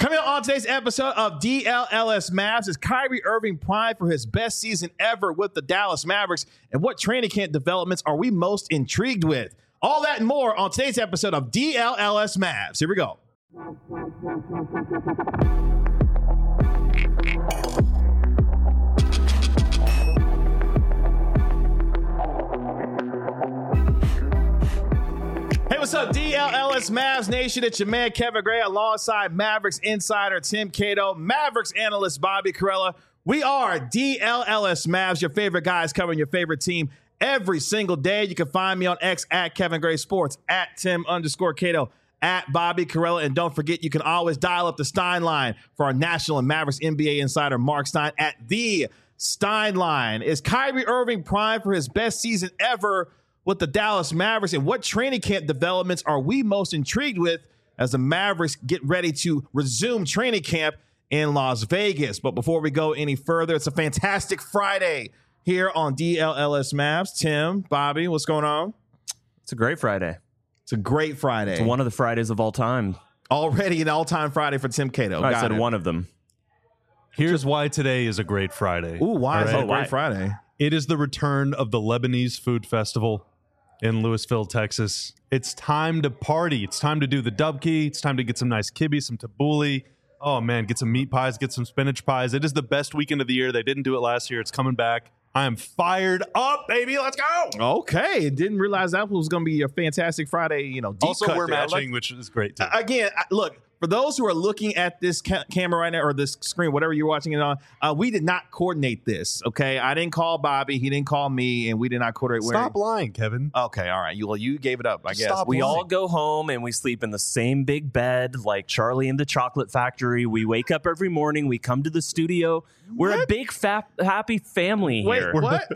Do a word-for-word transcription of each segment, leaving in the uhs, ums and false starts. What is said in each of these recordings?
Coming up on today's episode of D L L S Mavs is Kyrie Irving primed for his best season ever with the Dallas Mavericks, and what training camp developments are we most intrigued with? All that and more on today's episode of D L L S Mavs. Here we go. Hey, what's up, D L L S Mavs Nation? It's your man, Kevin Gray, alongside Mavericks insider Tim Cato, Mavericks analyst Bobby Karalla. We are D L L S Mavs, your favorite guys covering your favorite team every single day. You can find me on X at Kevin Gray Sports, at Tim underscore Cato, at Bobby Karalla. And don't forget, you can always dial up the Stein line for our national and Mavericks N B A insider Mark Stein at the Stein line. Is Kyrie Irving primed for his best season ever with the Dallas Mavericks, and what training camp developments are we most intrigued with as the Mavericks get ready to resume training camp in Las Vegas? But before we go any further, it's a fantastic Friday here on D L L S Mavs. Tim, Bobby, what's going on? It's a great Friday. It's a great Friday. It's one of the Fridays of all time. Already an all-time Friday for Tim Cato. I Got said it. one of them. Here's why today is a great Friday. Ooh, why is All it a right. great Friday? It is the return of the Lebanese Food Festival in Louisville, Texas. It's time to party. It's time to do the dubki. It's time to get some nice kibbe, some tabbouleh. Oh, man, get some meat pies, get some spinach pies. It is the best weekend of the year. They didn't do it last year. It's coming back. I am fired up, baby. Let's go. Okay. Didn't realize that was going to be a fantastic Friday, you know, deep Also, cut we're there. I like- matching, which is great, too. Again, I- look, for those who are looking at this ca- camera right now or this screen, whatever you're watching it on, uh, we did not coordinate this, okay? I didn't call Bobby. He didn't call me, and we did not coordinate. Stop lying, Kevin. Okay, all right. You, well, you gave it up, I guess. Stop We lying. all go home and we sleep in the same big bed like Charlie in the Chocolate Factory. We wake up every morning. We come to the studio. We're a What? big, fat, happy family Wait, here. what?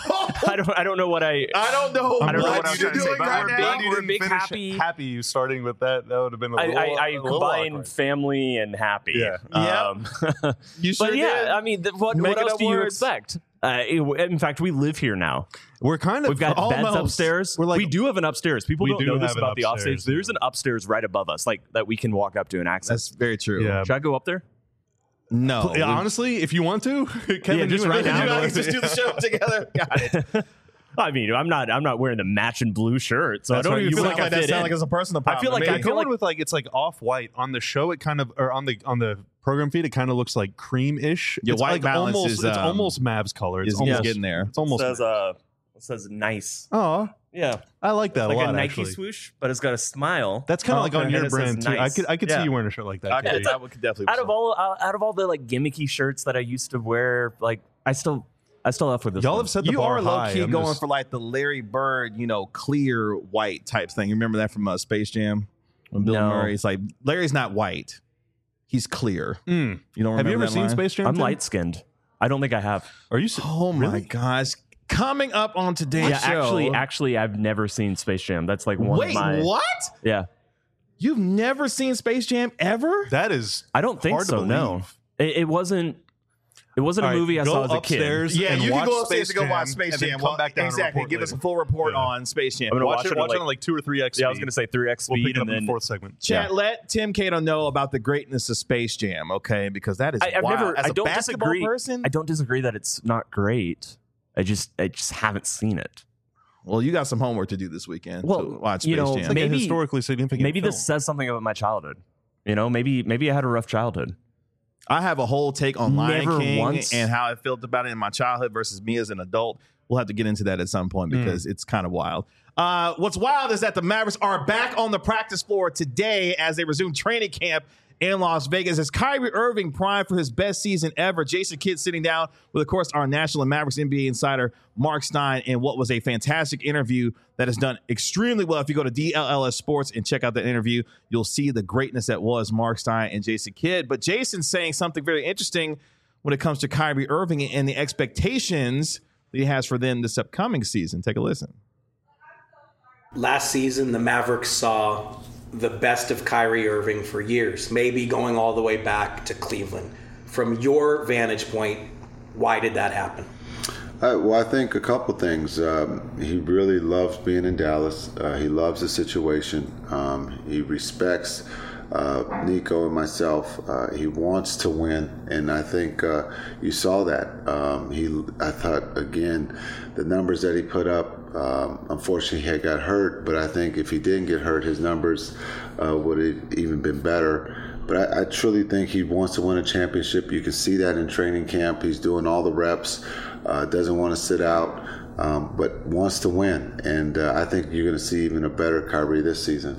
I don't. I don't know what I. I don't know. I don't know what what I'm you're trying to say, doing but right we're now. big- we're big, happy- Happy you starting with that. That would have been a I, little, I, I a little combine awkward. family and happy. Yeah. Um, You sure but yeah, did. I mean, th- what, what Making else up do you words. expect? Uh, it- in fact, we live here now. We're kind of We've got beds almost. upstairs. We're like- we do have an upstairs. People We don't do know this have an about the upstairs, upstairs. There's yeah. an upstairs right above us, like that we can walk up to and access. That's very true. Yeah. Should I go up there? No. Yeah, honestly, if you want to, Kevin, Yeah, just you right really now. do You it. guys just do the show together. Got it. I mean, I'm not. I'm not wearing the matching blue shirt, so That's I don't right. even You feel sound like I that fit sound in. like it's a personal problem. I feel like to I me. I'm feel going like- with like it's like off white on the show. It kind of or on the on the program feed. It kind of looks like cream-ish. Your it's white like balance almost, is, It's um, almost Mavs color. It's is almost getting there. It's almost. It says uh, it says nice. Oh, Yeah, I like that like a lot. a Nike actually, swoosh, but it's got a smile. that's kind of Oh, like okay. on your And it says brand too. I nice. could I could Yeah. see you wearing a shirt like that. I could, Katie. I could definitely. out of all uh, out of all the like gimmicky shirts that I used to wear, like I still I still have with this. Y'all one. have set the You bar are low high. key I'm going just- for like the Larry Bird, you know, clear white type thing. You remember that from uh, Space Jam when Bill No. Murray's like Larry's not white, he's clear. Mm. You don't Have remember you ever that seen line? Space Jam? I'm Tim? light skinned. I don't think I have. Are you? s- Oh my Really? gosh! Coming up on today's Yeah, show. actually, actually, I've never seen Space Jam. That's like one wait, of my. what? Yeah, You've never seen Space Jam ever? That is. I don't think hard to so. No, believe. it, it wasn't. It wasn't All a right, movie I go saw as a upstairs kid. Yeah, and you can watch go upstairs Space and go watch Jam, Space and then Jam. come Well, back down and exactly. report Give us a later. full report Yeah. on Space Jam. I'm gonna Watch, watch it. it at Watch it like- on like two or three x. Yeah, I was gonna say three x We'll speed, pick it up and in then the fourth segment. Chat, let Tim Cato know about the greatness of Space Jam, okay? Because that is I, I've wild. never. As I a don't basketball disagree. person, I don't disagree that it's not great. I just, I just haven't seen it. well, you got some homework to do this weekend. Well, to watch you Space know, Jam. It's like Maybe- a historically significant. Maybe film. this says something about my childhood. You know, maybe, maybe I had a rough childhood. I have a whole take on Lion Never King once. and how I felt about it in my childhood versus me as an adult. We'll have to get into that at some point because it's kind of wild. Uh, what's wild is that the Mavericks are back on the practice floor today as they resume training camp in Las Vegas. As Kyrie Irving primed for his best season ever, Jason Kidd sitting down with, of course, our national and Mavericks N B A insider Mark Stein in what was a fantastic interview that has done extremely well. If you go to D L L S Sports and check out that interview, you'll see the greatness that was Mark Stein and Jason Kidd. But Jason's saying something very interesting when it comes to Kyrie Irving and the expectations that he has for them this upcoming season. Take a listen. Last season, the Mavericks saw the best of Kyrie Irving for years, maybe going all the way back to Cleveland. From your vantage point, why did that happen? Uh, well, I think a couple things. Um, he really loves being in Dallas. Uh, he loves the situation. Um, he respects uh, Nico and myself. Uh, he wants to win, and I think uh, you saw that. Um, he, I thought again, the numbers that he put up. Um, unfortunately, he had got hurt, but I think if he didn't get hurt, his numbers uh, would have even been better. But I, I truly think he wants to win a championship. You can see that in training camp. He's doing all the reps, uh, doesn't want to sit out, um, but wants to win. And uh, I think you're going to see even a better Kyrie this season.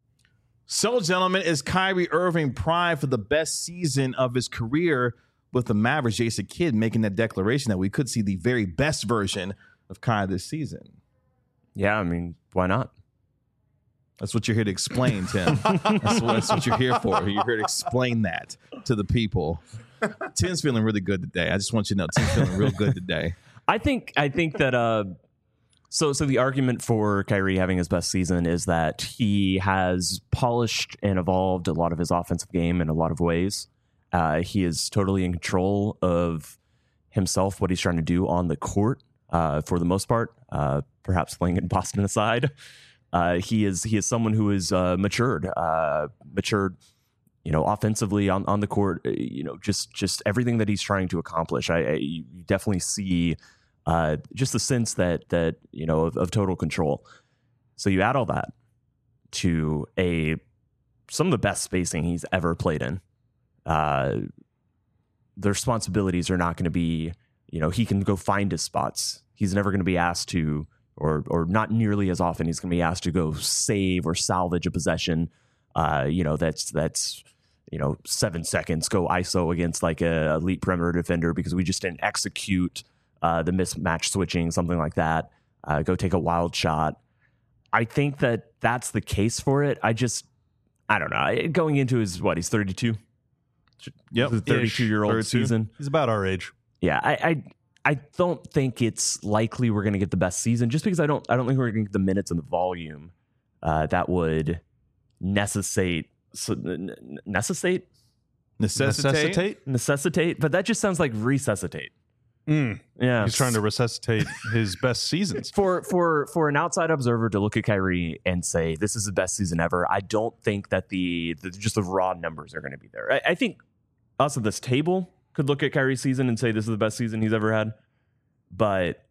So, gentlemen, is Kyrie Irving primed for the best season of his career with the Mavericks? Jason Kidd making that declaration that we could see the very best version of Kyrie this season. Yeah, I mean, why not? That's what you're here to explain, Tim. That's what, that's what you're here for. You're here to explain that to the people. Tim's feeling really good today. I just want you to know Tim's feeling real good today. I think I think that uh, so so the argument for Kyrie having his best season is that he has polished and evolved a lot of his offensive game in a lot of ways. Uh, he is totally in control of himself, what he's trying to do on the court uh, for the most part. Uh, perhaps playing in Boston aside. Uh, he is he is someone who is uh, matured, uh, matured, you know, offensively on, on the court. You know, just just everything that he's trying to accomplish. I, I you definitely see uh, just the sense that that you know of, of total control. So you add all that to a some of the best spacing he's ever played in. Uh, the responsibilities are not going to be, you know, he can go find his spots. He's never going to be asked to. Or, or not nearly as often he's going to be asked to go save or salvage a possession. Uh, you know, that's that's you know seven seconds go I S O against like a elite perimeter defender because we just didn't execute uh, the mismatch switching, something like that. Uh, go take a wild shot. I think that that's the case for it. I just I don't know. Going into his what he's thirty-two. Yep, thirty-two year old thirty-two. season. He's about our age. Yeah, I. I I don't think it's likely we're going to get the best season just because I don't I don't think we're going to get the minutes and the volume uh, that would necessitate so, necessitate Necessitate? Necessitate? necessitate but that just sounds like resuscitate. Mm. Yeah. He's trying to resuscitate his best seasons. For for for an outside observer to look at Kyrie and say this is the best season ever, I don't think that the, the just the raw numbers are going to be there. I, I think us at this table could look at Kyrie's season and say this is the best season he's ever had. But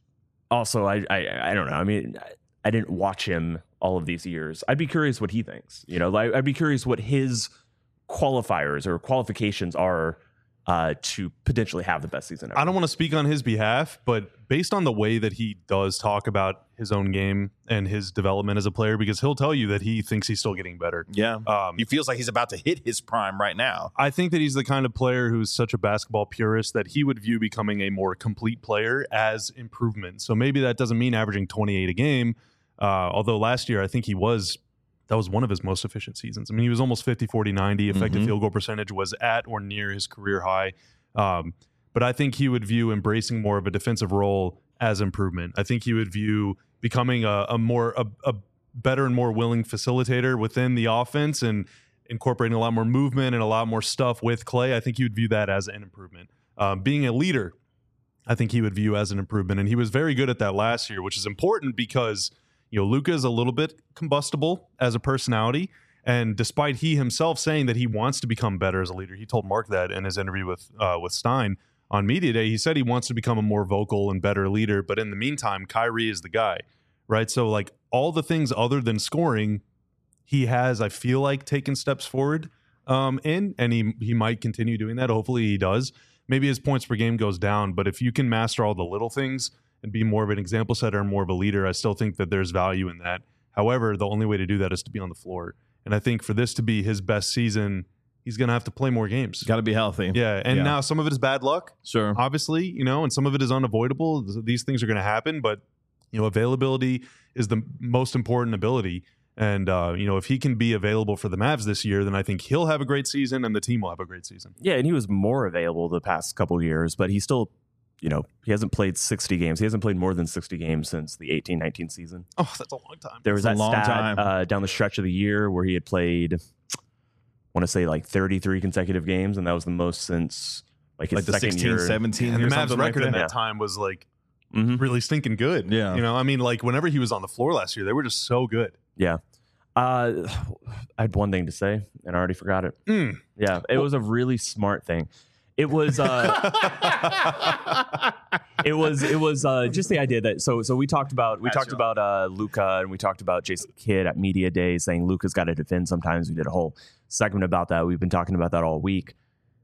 also, I I, I don't know. I mean, I, I didn't watch him all of these years. I'd be curious what he thinks. You know, like, I'd be curious what his qualifiers or qualifications are uh, to potentially have the best season ever. I don't want to speak on his behalf, but based on the way that he does talk about his own game and his development as a player, because he'll tell you that he thinks he's still getting better. Yeah. Um, he feels like he's about to hit his prime right now. I think that he's the kind of player who's such a basketball purist that he would view becoming a more complete player as improvement. So maybe that doesn't mean averaging twenty-eight a game. Uh, although last year, I think he was, that was one of his most efficient seasons. I mean, he was almost fifty, forty, ninety. Effective Mhm. field goal percentage was at or near his career high. Um, but I think he would view embracing more of a defensive role as improvement. I think he would view becoming a, a more, a, a better and more willing facilitator within the offense and incorporating a lot more movement and a lot more stuff with Clay. I think he would view that as an improvement. Um, being a leader, I think he would view as an improvement. And he was very good at that last year, which is important because, you know, Luka is a little bit combustible as a personality. And despite he himself saying that he wants to become better as a leader, he told Mark that in his interview with uh, with Stein on Media Day. He said he wants to become a more vocal and better leader. But in the meantime, Kyrie is the guy, right? So like all the things other than scoring, he has, I feel like, taken steps forward um, in, and he he might continue doing that. Hopefully he does. Maybe his points per game goes down, but if you can master all the little things and be more of an example setter and more of a leader, I still think that there's value in that. However, the only way to do that is to be on the floor. And I think for this to be his best season, he's going to have to play more games. Got to be healthy. Yeah, and Yeah. now some of it is bad luck, Sure. obviously, you know, and some of it is unavoidable. These things are going to happen, but, you know, availability is the most important ability. And, uh, you know, if he can be available for the Mavs this year, then I think he'll have a great season and the team will have a great season. Yeah, and he was more available the past couple of years, but he still, you know, he hasn't played sixty games. He hasn't played more than sixty games since the eighteen nineteen season. Oh, that's a long time. There was That's that a long stat time. uh, down the stretch of the year where he had played, I want to say like thirty-three consecutive games, and that was the most since like his Like the second sixteen, year. seventeen And or the Mavs something like record in that. that time was like Mhm. really stinking good. Yeah. You know, I mean, like whenever he was on the floor last year, they were just so good. Yeah. Uh, I had one thing to say, and I already forgot it. Mm. Yeah, it was a really smart thing. It was uh, it was it was uh, just the idea that so so we talked about we That's talked your- about uh, Luka, and we talked about Jason Kidd at Media Day saying Luka's got to defend sometimes. We did a whole segment about that. We've been talking about that all week.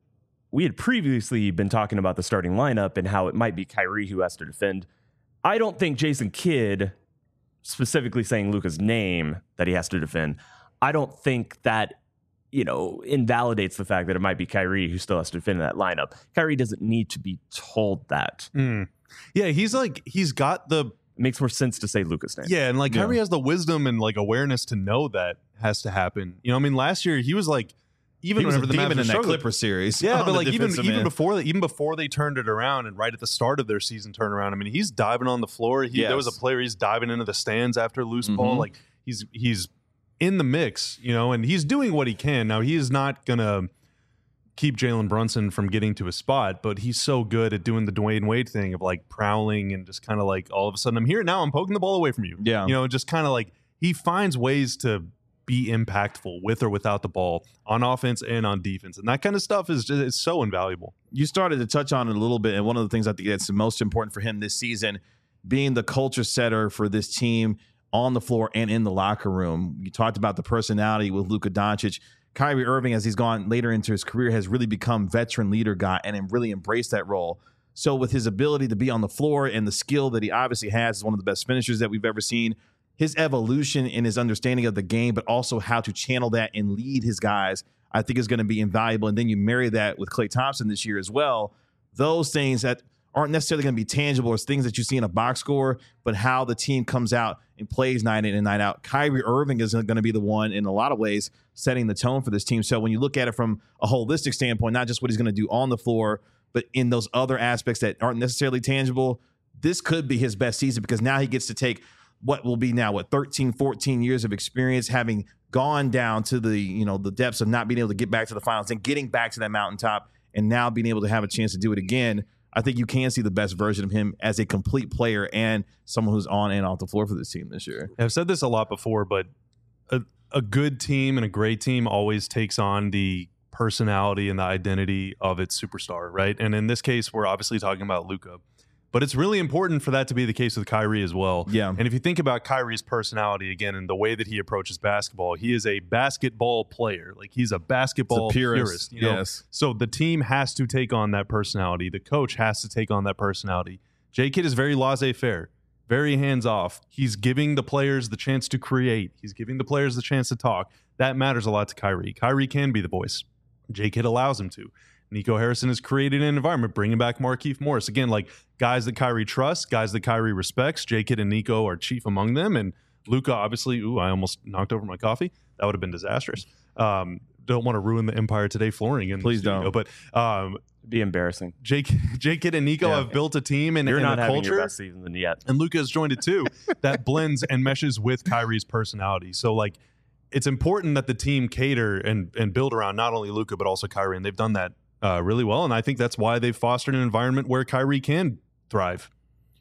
We had previously been talking about the starting lineup and how it might be Kyrie who has to defend. I don't think Jason Kidd, specifically saying Luka's name that he has to defend, I don't think that, you know, invalidates the fact that it might be Kyrie who still has to defend that lineup. Kyrie doesn't need to be told that. Mm. Yeah, he's like, he's got the, It makes more sense to say Luka's name. yeah, and like Yeah. Kyrie has the wisdom and like awareness to know that has to happen. You know, I mean, last year he was like, even He was a whenever the Mavs demon were in that struggling- Clipper series. Yeah, on but the like even defensive even end. before that, even before they turned it around, and right at the start of their season turnaround, I mean, he's diving on the floor. He, There was a Yes. player he's diving into the stands after loose Mhm. ball. Like he's he's in the mix, you know, and he's doing what he can. Now he is not gonna keep Jalen Brunson from getting to his spot, but he's so good at doing the Dwayne Wade thing of like prowling and just kind of like all of a sudden I'm here now, I'm poking the ball away from you. Yeah. You know, just kind of like he finds ways to be impactful with or without the ball on offense and on defense. And that kind of stuff is just, is so invaluable. You started to touch on it a little bit, and one of the things I think that's the most important for him this season, being the culture setter for this team on the floor and in the locker room. You talked about the personality with Luka Doncic. Kyrie Irving, as he's gone later into his career, has really become veteran leader guy and really embraced that role. So with his ability to be on the floor and the skill that he obviously has as one of the best finishers that we've ever seen, his evolution in his understanding of the game, but also how to channel that and lead his guys, I think is going to be invaluable. And then you marry that with Klay Thompson this year as well. Those things that aren't necessarily going to be tangible as things that you see in a box score, but how the team comes out and plays night in and night out. Kyrie Irving is going to be the one in a lot of ways setting the tone for this team. So when you look at it from a holistic standpoint, not just what he's going to do on the floor, but in those other aspects that aren't necessarily tangible, this could be his best season because now he gets to take what will be now, what, thirteen, fourteen years of experience, having gone down to the, you know, the depths of not being able to get back to the finals and getting back to that mountaintop and now being able to have a chance to do it again. I think you can see the best version of him as a complete player and someone who's on and off the floor for this team this year. I've said this a lot before, but a, a good team and a great team always takes on the personality and the identity of its superstar, right? And in this case, we're obviously talking about Luka. But it's really important for that to be the case with Kyrie as well. Yeah. And if you think about Kyrie's personality again and the way that he approaches basketball, he is a basketball player. Like he's a basketball It's a purist, purist. You know? yes. So the team has to take on that personality. The coach has to take on that personality. J. Kidd is very laissez-faire, very hands-off. He's giving the players the chance to create. He's giving the players the chance to talk. That matters a lot to Kyrie. Kyrie can be the voice. J. Kidd allows him to. Nico Harrison has created an environment, bringing back Markieff Morris. Again, like guys that Kyrie trusts, guys that Kyrie respects. J. Kidd and Nico are chief among them. And Luka, obviously, ooh, I almost knocked over my coffee. That would have been disastrous. Um, don't want to ruin the Empire Today flooring. In Please the studio, don't. But um, It'd be embarrassing. J. J. Kidd and Nico Yeah. have built a team and, You're and not a having culture. your best season yet. And Luka has joined it too. That blends and meshes with Kyrie's personality. So like it's important that the team cater and and build around not only Luka but also Kyrie, and they've done that uh, really well. And I think that's why they've fostered an environment where Kyrie can thrive.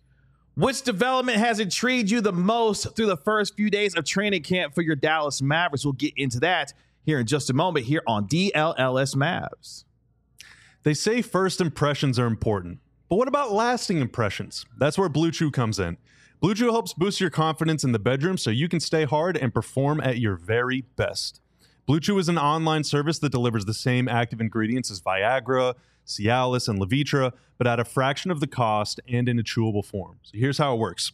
Which development has intrigued you the most through the first few days of training camp for your Dallas Mavericks? We'll get into that here in just a moment here on D L L S Mavs. They say first impressions are important, but what about lasting impressions? That's where Blue Chew comes in. Blue Chew helps boost your confidence in the bedroom so you can stay hard and perform at your very best. Blue Chew is an online service that delivers the same active ingredients as Viagra, Cialis, and Levitra, but at a fraction of the cost and in a chewable form. So here's how it works.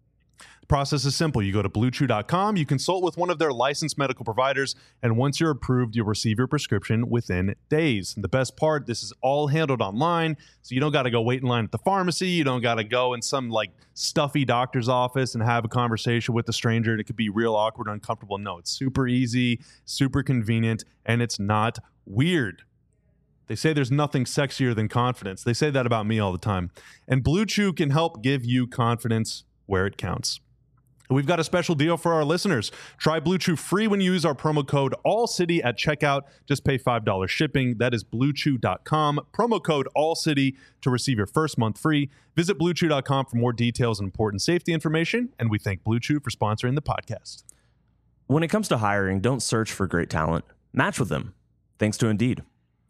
The process is simple. You go to blue chew dot com, you consult with one of their licensed medical providers, and once you're approved, you'll receive your prescription within days. And the best part, this is all handled online, so you don't got to go wait in line at the pharmacy. You don't got to go in some like stuffy doctor's office and have a conversation with a stranger, and it could be real awkward, uncomfortable. No, it's super easy, super convenient, and it's not weird. They say there's nothing sexier than confidence. They say that about me all the time. And Blue Chew can help give you confidence where it counts. We've got a special deal for our listeners. Try Blue Chew free when you use our promo code ALLCITY at checkout. Just pay five dollars shipping. That is blue chew dot com. Promo code ALLCITY to receive your first month free. Visit blue chew dot com for more details and important safety information. And we thank Blue Chew for sponsoring the podcast. When it comes to hiring, don't search for great talent. Match with them, thanks to Indeed.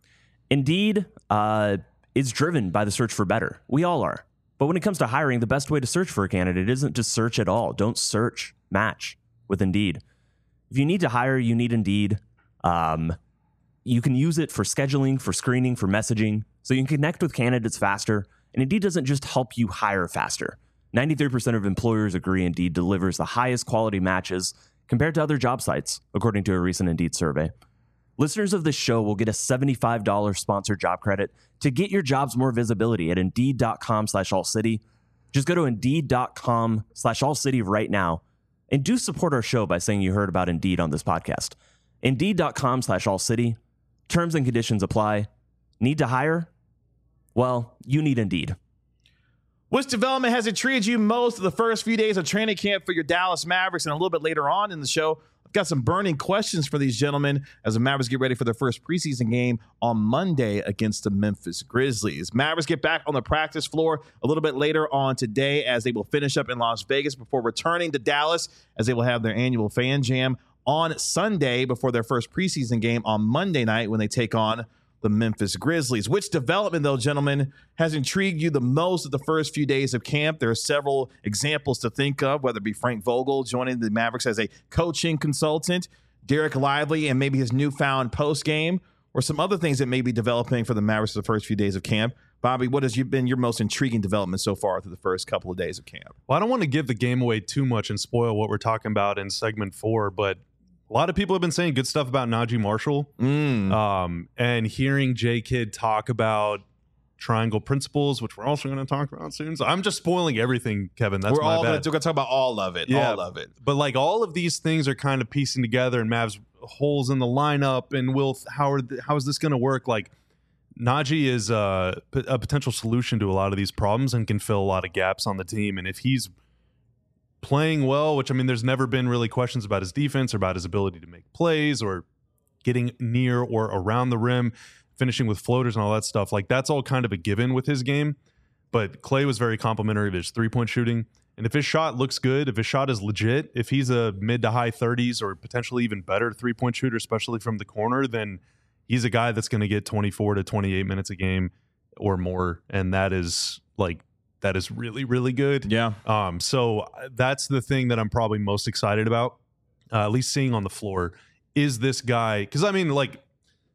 Indeed uh, is driven by the search for better. We all are. But when it comes to hiring, the best way to search for a candidate isn't to search at all. Don't search. Match with Indeed. If you need to hire, you need Indeed. Um, you can use it for scheduling, for screening, for messaging, so you can connect with candidates faster. And Indeed doesn't just help you hire faster. ninety-three percent of employers agree Indeed delivers the highest quality matches compared to other job sites, according to a recent Indeed survey. Listeners of this show will get a seventy-five dollars sponsored job credit to get your jobs more visibility at Indeed.com slash All City. Just go to Indeed.com slash All City right now and do support our show by saying you heard about Indeed on this podcast. Indeed.com slash All City. Terms and conditions apply. Need to hire? Well, you need Indeed. Which development has intrigued you most of the first few days of training camp for your Dallas Mavericks? And a little bit later on in the show, I've got some burning questions for these gentlemen as the Mavericks get ready for their first preseason game on Monday against the Memphis Grizzlies. Mavericks get back on the practice floor a little bit later on today as they will finish up in Las Vegas before returning to Dallas as they will have their annual fan jam on Sunday before their first preseason game on Monday night when they take on the Memphis Grizzlies. Which development, though, gentlemen, has intrigued you the most of the first few days of camp? There are several examples to think of, whether it be Frank Vogel joining the Mavericks as a coaching consultant, Derek Lively and maybe his newfound post game, or some other things that may be developing for the Mavericks the first few days of camp. Bobby, what has been your most intriguing development so far through the first couple of days of camp? Well, I don't want to give the game away too much and spoil what we're talking about in segment four, but a lot of people have been saying good stuff about Najee Marshall. Mm. Um, and hearing J Kidd talk about triangle principles, which we're also going to talk about soon. So I'm just spoiling everything, Kevin. That's we're my all bad. going to talk about all of it. Yeah, all of it. But like all of these things are kind of piecing together, and Mavs holes in the lineup, and will how are th- how is this going to work? Like Najee is uh, p- a potential solution to a lot of these problems and can fill a lot of gaps on the team. And if he's playing well, which I mean, there's never been really questions about his defense or about his ability to make plays or getting near or around the rim, finishing with floaters and all that stuff. Like that's all kind of a given with his game. But Clay was very complimentary of his three-point shooting. And if his shot looks good, if his shot is legit, if he's a mid to high thirties or potentially even better three-point shooter, especially from the corner, then he's a guy that's going to get twenty-four to twenty-eight minutes a game or more. And that is like, that is really, really good. Yeah. Um, so that's the thing that I'm probably most excited about, uh, at least seeing on the floor. Is this guy, because I mean, like,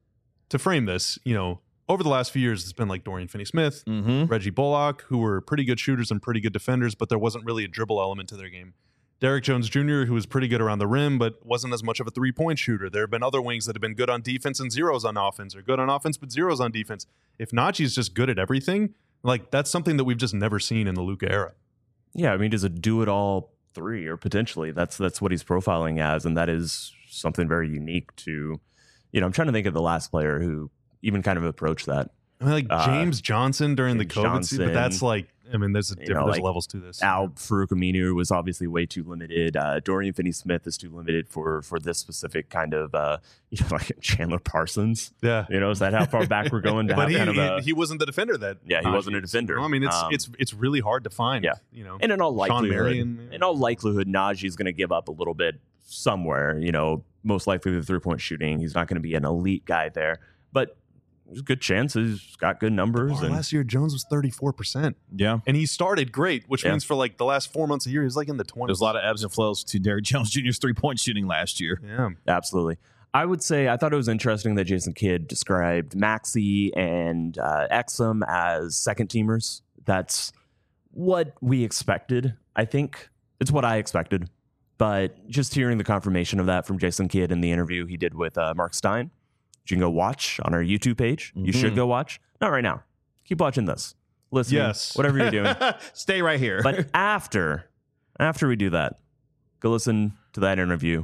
to frame this, you know, over the last few years, it's been like Dorian Finney-Smith, Mm-hmm. Reggie Bullock, who were pretty good shooters and pretty good defenders, but there wasn't really a dribble element to their game. Derek Jones Junior, who was pretty good around the rim, but wasn't as much of a three-point shooter. There have been other wings that have been good on defense and zeros on offense, or good on offense but zeros on defense. If Najee's just good at everything, like that's something that we've just never seen in the Luka era. Yeah, I mean, does a do-it-all three, or potentially that's that's what he's profiling as, and that is something very unique to, you know, I'm trying to think of the last player who even kind of approached that. I mean, like Uh, James Johnson during James the COVID season, but that's Johnson. like, I mean, there's a You different know, there's like levels to this. Al Farouk Aminu was obviously way too limited. Uh, Dorian Finney-Smith is too limited for for this specific kind of, uh, you know, like Chandler Parsons. Yeah. You know, is that how far back we're going to But have he, kind of he, a, he wasn't the defender that. Yeah, he Najee wasn't a is. defender. I mean, it's Um, it's it's really hard to find. yeah. you know, and in all Sean likelihood, Marion, in all likelihood, Najee's going to give up a little bit somewhere. You know, most likely the three point shooting. He's not going to be an elite guy there, but there's a good chance he's got good numbers. Bar And last year Jones was thirty-four percent, Yeah. and he started great, which Yeah. means for like the last four months of the year, he was like in the twenties. There's a lot of ebbs and flows to Derrick Jones Junior's three-point shooting last year. Yeah, absolutely. I would say I thought it was interesting that Jason Kidd described Maxey and uh, Exum as second teamers. That's what we expected. I think it's what I expected. But just hearing the confirmation of that from Jason Kidd in the interview he did with uh, Mark Stein, you can go watch on our YouTube page. You Mhm. should go watch. Not right now. Keep watching this. Listening. Yes. Whatever you're doing. Stay right here. But after, after we do that, go listen to that interview.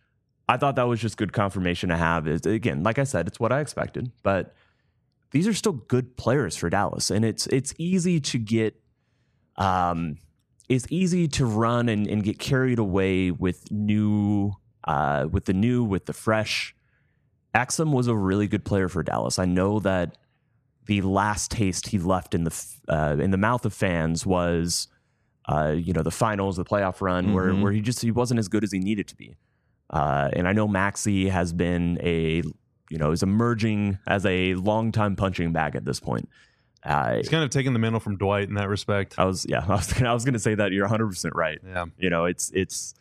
I thought that was just good confirmation to have. Is again, like I said, it's what I expected. But these are still good players for Dallas, and it's it's easy to get, um, it's easy to run and, and get carried away with new, uh, with the new, with the fresh. Exum was a really good player for Dallas. I know that the last taste he left in the f- uh, in the mouth of fans was, uh, you know, the finals, the playoff run, where Mhm. where he just he wasn't as good as he needed to be. Uh, and I know Maxey has been a, you know, is emerging as a longtime punching bag at this point. Uh, He's kind of taking the mantle from Dwight in that respect. I was, yeah, I was, I was going to say that. You're one hundred percent right. Yeah. You know, it's, it's,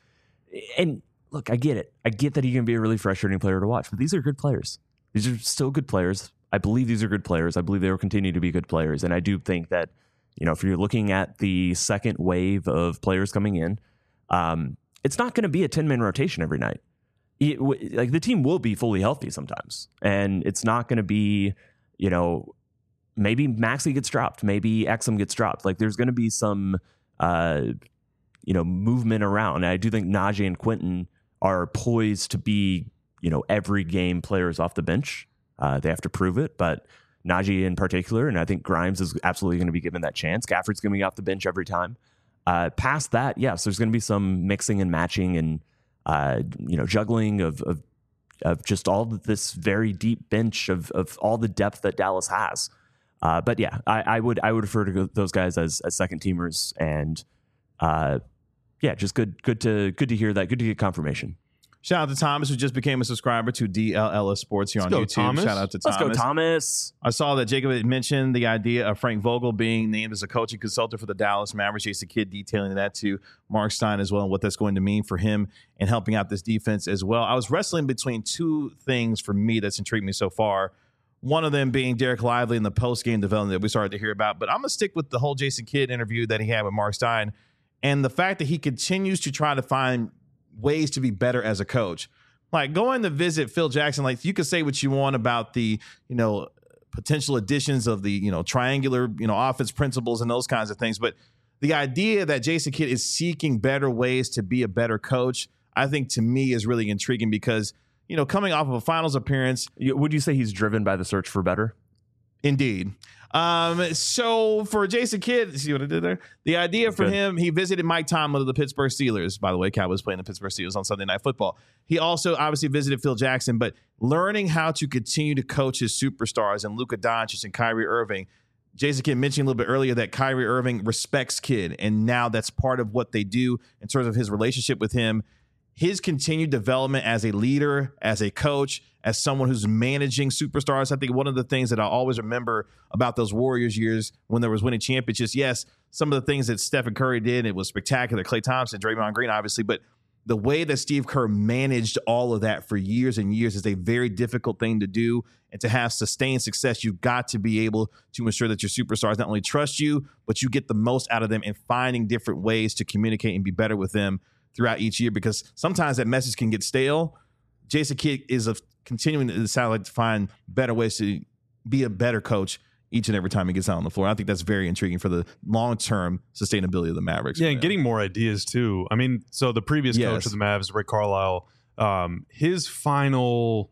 and look, I get it. I get that he can be a really frustrating player to watch, but these are good players. These are still good players. I believe these are good players. I believe they will continue to be good players. And I do think that, you know, if you're looking at the second wave of players coming in, um, it's not going to be a ten-man rotation every night. It, like the team will be fully healthy sometimes. And it's not going to be, you know, maybe Maxey gets dropped. Maybe Exum gets dropped. Like there's going to be some, uh, you know, movement around. And I do think Najee and Quentin are poised to be, you know, every game players off the bench. Uh, they have to prove it, but Najee in particular, and I think Grimes is absolutely going to be given that chance. Gafford's going to be off the bench every time. Uh, past that, yes, there's going to be some mixing and matching and, uh, you know, juggling of, of of just all this very deep bench of of all the depth that Dallas has. Uh, but yeah, I, I would I would refer to those guys as, as second teamers, and uh, yeah, just good good to good to hear that. Good to get confirmation. Shout out to Thomas, who just became a subscriber to D L L S Sports here Let's on go, YouTube. Thomas. Shout out to Let's Thomas. go, Thomas. I saw that Jacob had mentioned the idea of Frank Vogel being named as a coaching consultant for the Dallas Mavericks. Jason Kidd detailing that to Mark Stein as well, and what that's going to mean for him and helping out this defense as well. I was wrestling between two things for me that's intrigued me so far. One of them being Derek Lively and the post-game development that we started to hear about. But I'm going to stick with the whole Jason Kidd interview that he had with Mark Stein and the fact that he continues to try to find ways to be better as a coach. Like going to visit Phil Jackson, like you could say what you want about the, you know, potential additions of the, you know, triangular, you know, offense principles and those kinds of things. But the idea that Jason Kidd is seeking better ways to be a better coach, I think to me is really intriguing because, you know, coming off of a finals appearance. Would you say he's driven by the search for better? Indeed. Um, so for Jason Kidd, see what I did there? The idea for Good. him, he visited Mike Tomlin of the Pittsburgh Steelers. By the way, Cowboys playing the Pittsburgh Steelers on Sunday Night Football. He also obviously visited Phil Jackson, but learning how to continue to coach his superstars and Luka Doncic and Kyrie Irving. Jason Kidd mentioned a little bit earlier that Kyrie Irving respects Kidd, and now that's part of what they do in terms of his relationship with him. His continued development as a leader, as a coach, as someone who's managing superstars. I think one of the things that I always remember about those Warriors years when there was winning championships, yes, some of the things that Stephen Curry did, it was spectacular. Klay Thompson, Draymond Green, obviously, but the way that Steve Kerr managed all of that for years and years is a very difficult thing to do. And to have sustained success, you've got to be able to ensure that your superstars not only trust you, but you get the most out of them and finding different ways to communicate and be better with them throughout each year, because sometimes that message can get stale. Jason Kidd is a, continuing to sound like to find better ways to be a better coach each and every time he gets out on the floor. I think that's very intriguing for the long-term sustainability of the Mavericks. Yeah, and getting more ideas too. I mean, so the previous Yes. coach of the Mavs, Rick Carlisle, um, his final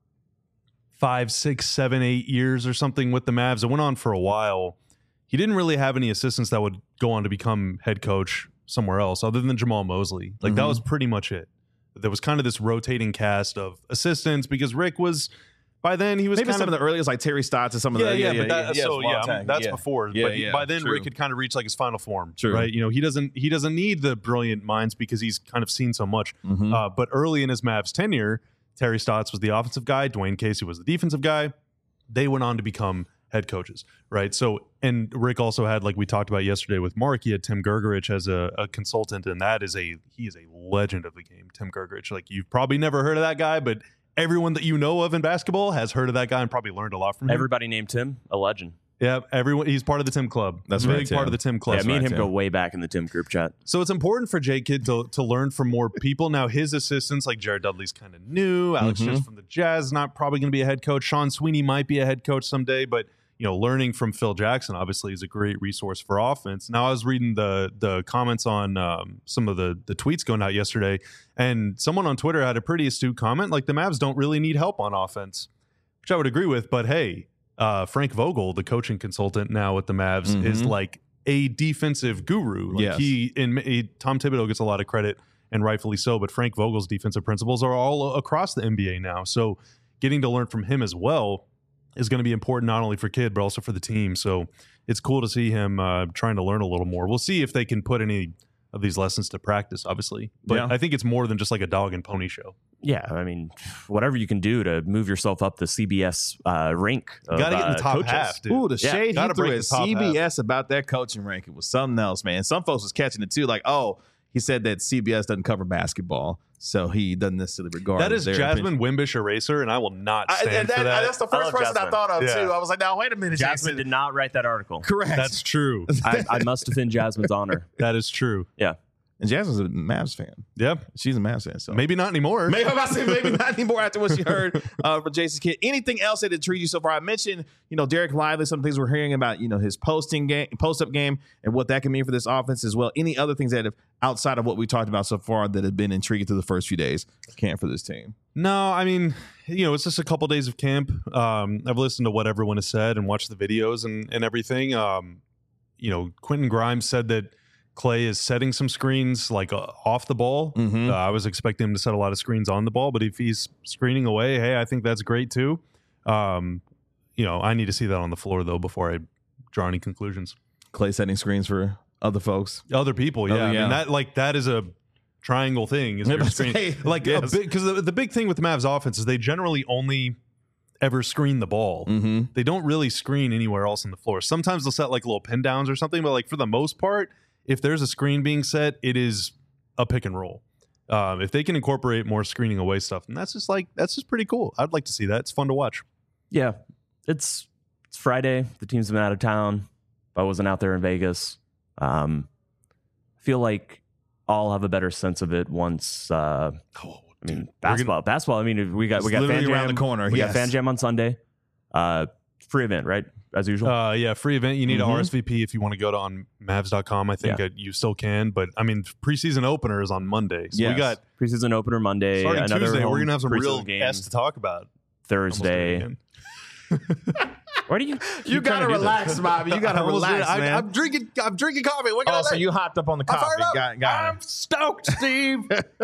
five, six, seven, eight years or something with the Mavs, it went on for a while. He didn't really have any assistants that would go on to become head coach somewhere else other than Jamal Mosley. Like Mhm. that was pretty much it. There was kind of this rotating cast of assistants because Rick was, by then he was Maybe kind some of, the earliest, like Terry Stotts and some of yeah, the yeah, but that, yeah, so it's a long yeah, I mean, time. that's Yeah. before. Yeah, but he- yeah, by then, true. Rick had kind of reached like his final form, True. right? You know, he doesn't he doesn't need the brilliant minds because he's kind of seen so much. Mhm. Uh, but early in his Mavs tenure, Terry Stotts was the offensive guy, Dwayne Casey was the defensive guy. They went on to become head coaches, right? So, and Rick also had, like we talked about yesterday with Mark, he had Tim Gergerich as a, a consultant, and that is a he is a legend of the game, Tim Gergerich. Like you've probably never heard of that guy, but everyone that you know of in basketball has heard of that guy and probably learned a lot from him. Everybody named Tim a legend. Yeah, everyone. He's part of the Tim Club. That's a right, big Tim. part of the Tim Club. Yeah, me and right, him Tim. go way back in the Tim group chat. So it's important for J Kidd to to learn from more people. Now his assistants, like Jared Dudley's kind of new. Alex Mhm. Smith from the Jazz, not probably going to be a head coach. Sean Sweeney might be a head coach someday, but you know, learning from Phil Jackson obviously is a great resource for offense. Now I was reading the the comments on um, some of the the tweets going out yesterday, and someone on Twitter had a pretty astute comment, like the Mavs don't really need help on offense, which I would agree with. But hey, uh, Frank Vogel, the coaching consultant now with the Mavs, Mhm. is like a defensive guru. Like Yes. he and he, Tom Thibodeau gets a lot of credit, and rightfully so. But Frank Vogel's defensive principles are all across the N B A now. So getting to learn from him as well is going to be important, not only for Kidd but also for the team. So it's cool to see him uh, trying to learn a little more. We'll see if they can put any of these lessons to practice, obviously. But Yeah. I think it's more than just like a dog and pony show. Yeah, I mean, whatever you can do to move yourself up the C B S uh, rank. Of, Got to get in uh, the top coaches. half, dude. Ooh, the Yeah, shade he gotta threw break at the top C B S about that coaching rank. It was something else, man. Some folks was catching it too. Like, oh, he said that C B S doesn't cover basketball, so he doesn't necessarily regard That is their Jasmine opinion. Wimbish Eraser, and I will not I, stand and that, for that. That's the I first love person I Jasmine. thought of Yeah. too. I was like, now wait a minute, Jasmine Jason. did not write that article. Correct. That's true. I, I must defend Jasmine's honor. That is true. Yeah. and Jasmine's a Mavs fan. Yeah. She's a Mavs fan. So Maybe not anymore. Maybe I'm about to say maybe not anymore after what she heard uh, from Jason Kidd. Anything else that intrigued you so far? I mentioned, you know, Derek Lively, some things we're hearing about, you know, his posting game, post up game, and what that can mean for this offense as well. Any other things that have outside of what we talked about so far that have been intriguing through the first few days of camp for this team? No, I mean, you know, it's just a couple days of camp. Um, I've listened to what everyone has said and watched the videos and, and everything. Um, you know, Quentin Grimes said that Clay is setting some screens like uh, off the ball. Mhm. Uh, I was expecting him to set a lot of screens on the ball, but if he's screening away, hey, I think that's great too. Um, you know, I need to see that on the floor though before I draw any conclusions. Clay setting screens for other folks. Other people, yeah. Oh, I yeah. mean, that like that is a triangle thing. Is Yeah, your but screen. say, like yes. a big because the, the big thing with the Mavs offense is they generally only ever screen the ball. Mm-hmm. They don't really screen anywhere else on the floor. Sometimes they'll set like little pin downs or something, but like for the most part, if there's a screen being set, it is a pick and roll. Um, if they can incorporate more screening away stuff, and that's just like that's just pretty cool. I'd like to see that. It's fun to watch. Yeah, it's it's Friday. The team's been out of town. I wasn't out there in Vegas. Um, I feel like I'll have a better sense of it once. Uh, Oh, I mean, basketball. basketball. I mean, we got It's we got literally fan around jam the corner, We yes. got fan jam on Sunday. Uh, free event, right? As usual. Uh, yeah, free event. You need Mhm. to R S V P if you want to go to on Mavs dot com. I think Yeah. uh, you still can, but I mean, preseason opener is on Monday, so Yes. we got Preseason opener Monday. starting another Tuesday. We're home gonna have some preseason real game S to talk about. Almost did it Thursday. again. Why do you? You keep gotta trying to do relax, that? Bobby. You gotta I almost did it. relax, I, man. I'm drinking. I'm drinking coffee. What can Oh, I so say? you hopped up on the I'm coffee. fired up. Got, got I'm it. stoked, Steve.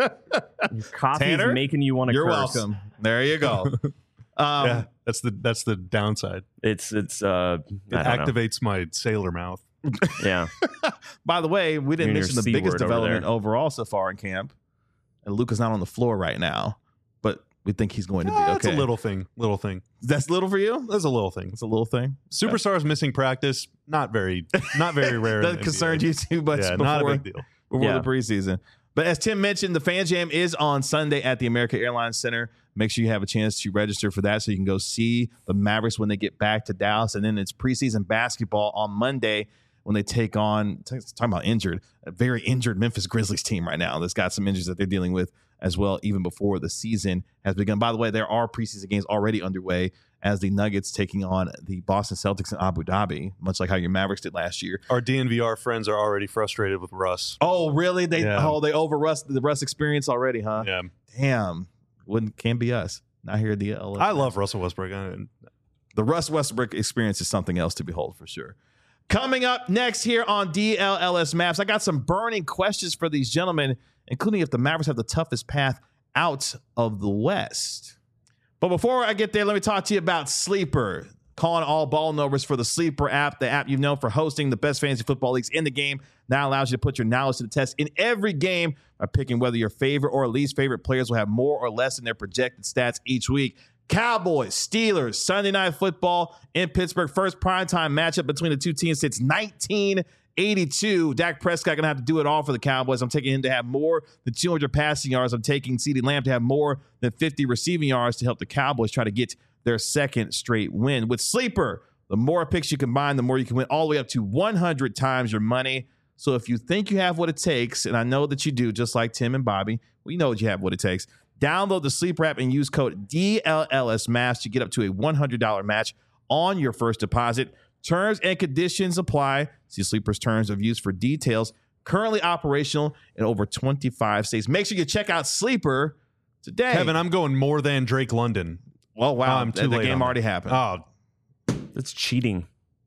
Coffee Tanner? is making you want to You're curse. welcome. There you go. Um, yeah, that's the that's the downside. It's it's uh It I don't know. activates my sailor mouth. Yeah. By the way, we didn't You're in mention your the C biggest word over development there. overall so far in camp. And Luka's not on the floor right now, but we think he's going to be Ah, okay. That's a little thing. Little thing. That's little for you? That's a little thing. It's a little thing. Superstars missing practice. Not very. Not very rare. in That the concerned N B A. you too much Yeah, before, not a big deal. before Yeah. the preseason. But as Tim mentioned, the Fan Jam is on Sunday at the American Airlines Center. Make sure you have a chance to register for that so you can go see the Mavericks when they get back to Dallas. And then it's preseason basketball on Monday when they take on, talking about injured, a very injured Memphis Grizzlies team right now that's got some injuries that they're dealing with as well, even before the season has begun. By the way, there are preseason games already underway as the Nuggets taking on the Boston Celtics in Abu Dhabi, much like how your Mavericks did last year. Our D N V R friends are already frustrated with Russ. Oh, really? They Yeah. oh they over Russ the Russ experience already, huh? Yeah, Damn, wouldn't can't be us. Not here at the L S. I love Russell Westbrook. I, the Russ Westbrook experience is something else to behold for sure. Coming up next here on D L L S Maps, I got some burning questions for these gentlemen, including if the Mavericks have the toughest path out of the West. But before I get there, let me talk to you about Sleeper. Calling all ball numbers for the Sleeper app, the app you've known for hosting the best fantasy football leagues in the game. Now allows you to put your knowledge to the test in every game by picking whether your favorite or least favorite players will have more or less in their projected stats each week. Cowboys, Steelers, Sunday Night Football in Pittsburgh. First primetime matchup between the two teams since nineteen eighty-two. Dak Prescott going to have to do it all for the Cowboys. I'm taking him to have more than two hundred passing yards. I'm taking CeeDee Lamb to have more than fifty receiving yards to help the Cowboys try to get their second straight win. With Sleeper, the more picks you combine, the more you can win, all the way up to one hundred times your money. So if you think you have what it takes, and I know that you do, just like Tim and Bobby, we know that you have what it takes. Download the Sleeper app and use code D L L S Maps to get up to a one hundred dollars match on your first deposit. Terms and conditions apply. See Sleeper's terms of use for details. Currently operational in over twenty-five states. Make sure you check out Sleeper today. Kevin, I'm going more than Drake London. well, wow, I'm too the, the late game on already that. happened. Oh, That's cheating.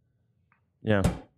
Yeah.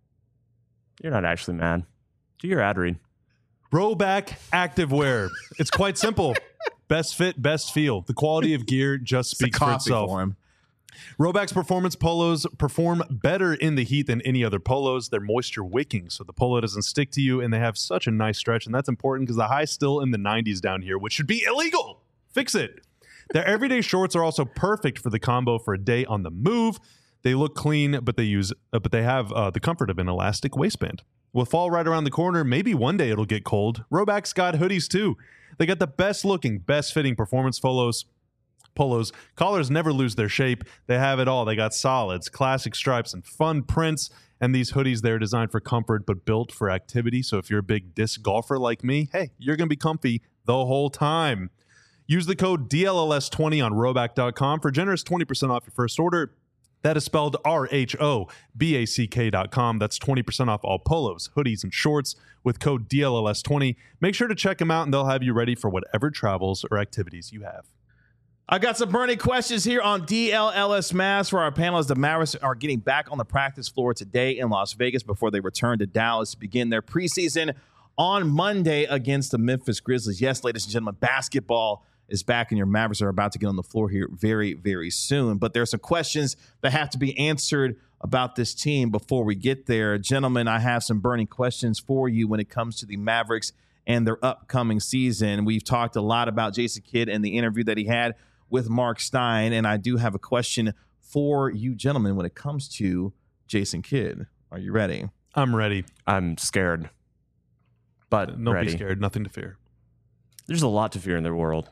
You're not actually mad. Do your ad read. Rowback Activewear. It's quite simple. Best fit, best feel. The quality of gear just It's a speaks for coffee itself. for him. Rhoback's performance polos perform better in the heat than any other polos. They're moisture wicking, so the polo doesn't stick to you, and they have such a nice stretch, and that's important because the high's still in the nineties down here, which should be illegal. Fix it. Their everyday shorts are also perfect for the combo for a day on the move. They look clean, but they use, uh, but they have uh, the comfort of an elastic waistband. With fall right around the corner, maybe one day it'll get cold. Rhoback's got hoodies too. They got the best looking, best fitting performance polos. Polos. Collars never lose their shape. They have it all. They got solids, classic stripes, and fun prints. And these hoodies, they're designed for comfort but built for activity. So if you're a big disc golfer like me, hey, you're going to be comfy the whole time. Use the code D L L S twenty on Rhoback dot com for generous twenty percent off your first order. That is spelled R H O B A C K dot com. That's twenty percent off all polos, hoodies, and shorts with code D L L S twenty. Make sure to check them out, and they'll have you ready for whatever travels or activities you have. I got some burning questions here on D L L S Mavs for our panelists. The Mavericks are getting back on the practice floor today in Las Vegas before they return to Dallas to begin their preseason on Monday against the Memphis Grizzlies. Yes, ladies and gentlemen, basketball is back, and your Mavericks are about to get on the floor here very, very soon. But there are some questions that have to be answered about this team before we get there. Gentlemen, I have some burning questions for you when it comes to the Mavericks and their upcoming season. We've talked a lot about Jason Kidd and the interview that he had with Mark Stein, and I do have a question for you gentlemen when it comes to Jason Kidd. Are you ready? I'm ready. I'm scared, but Don't ready. be scared. Nothing to fear. There's a lot to fear in their world.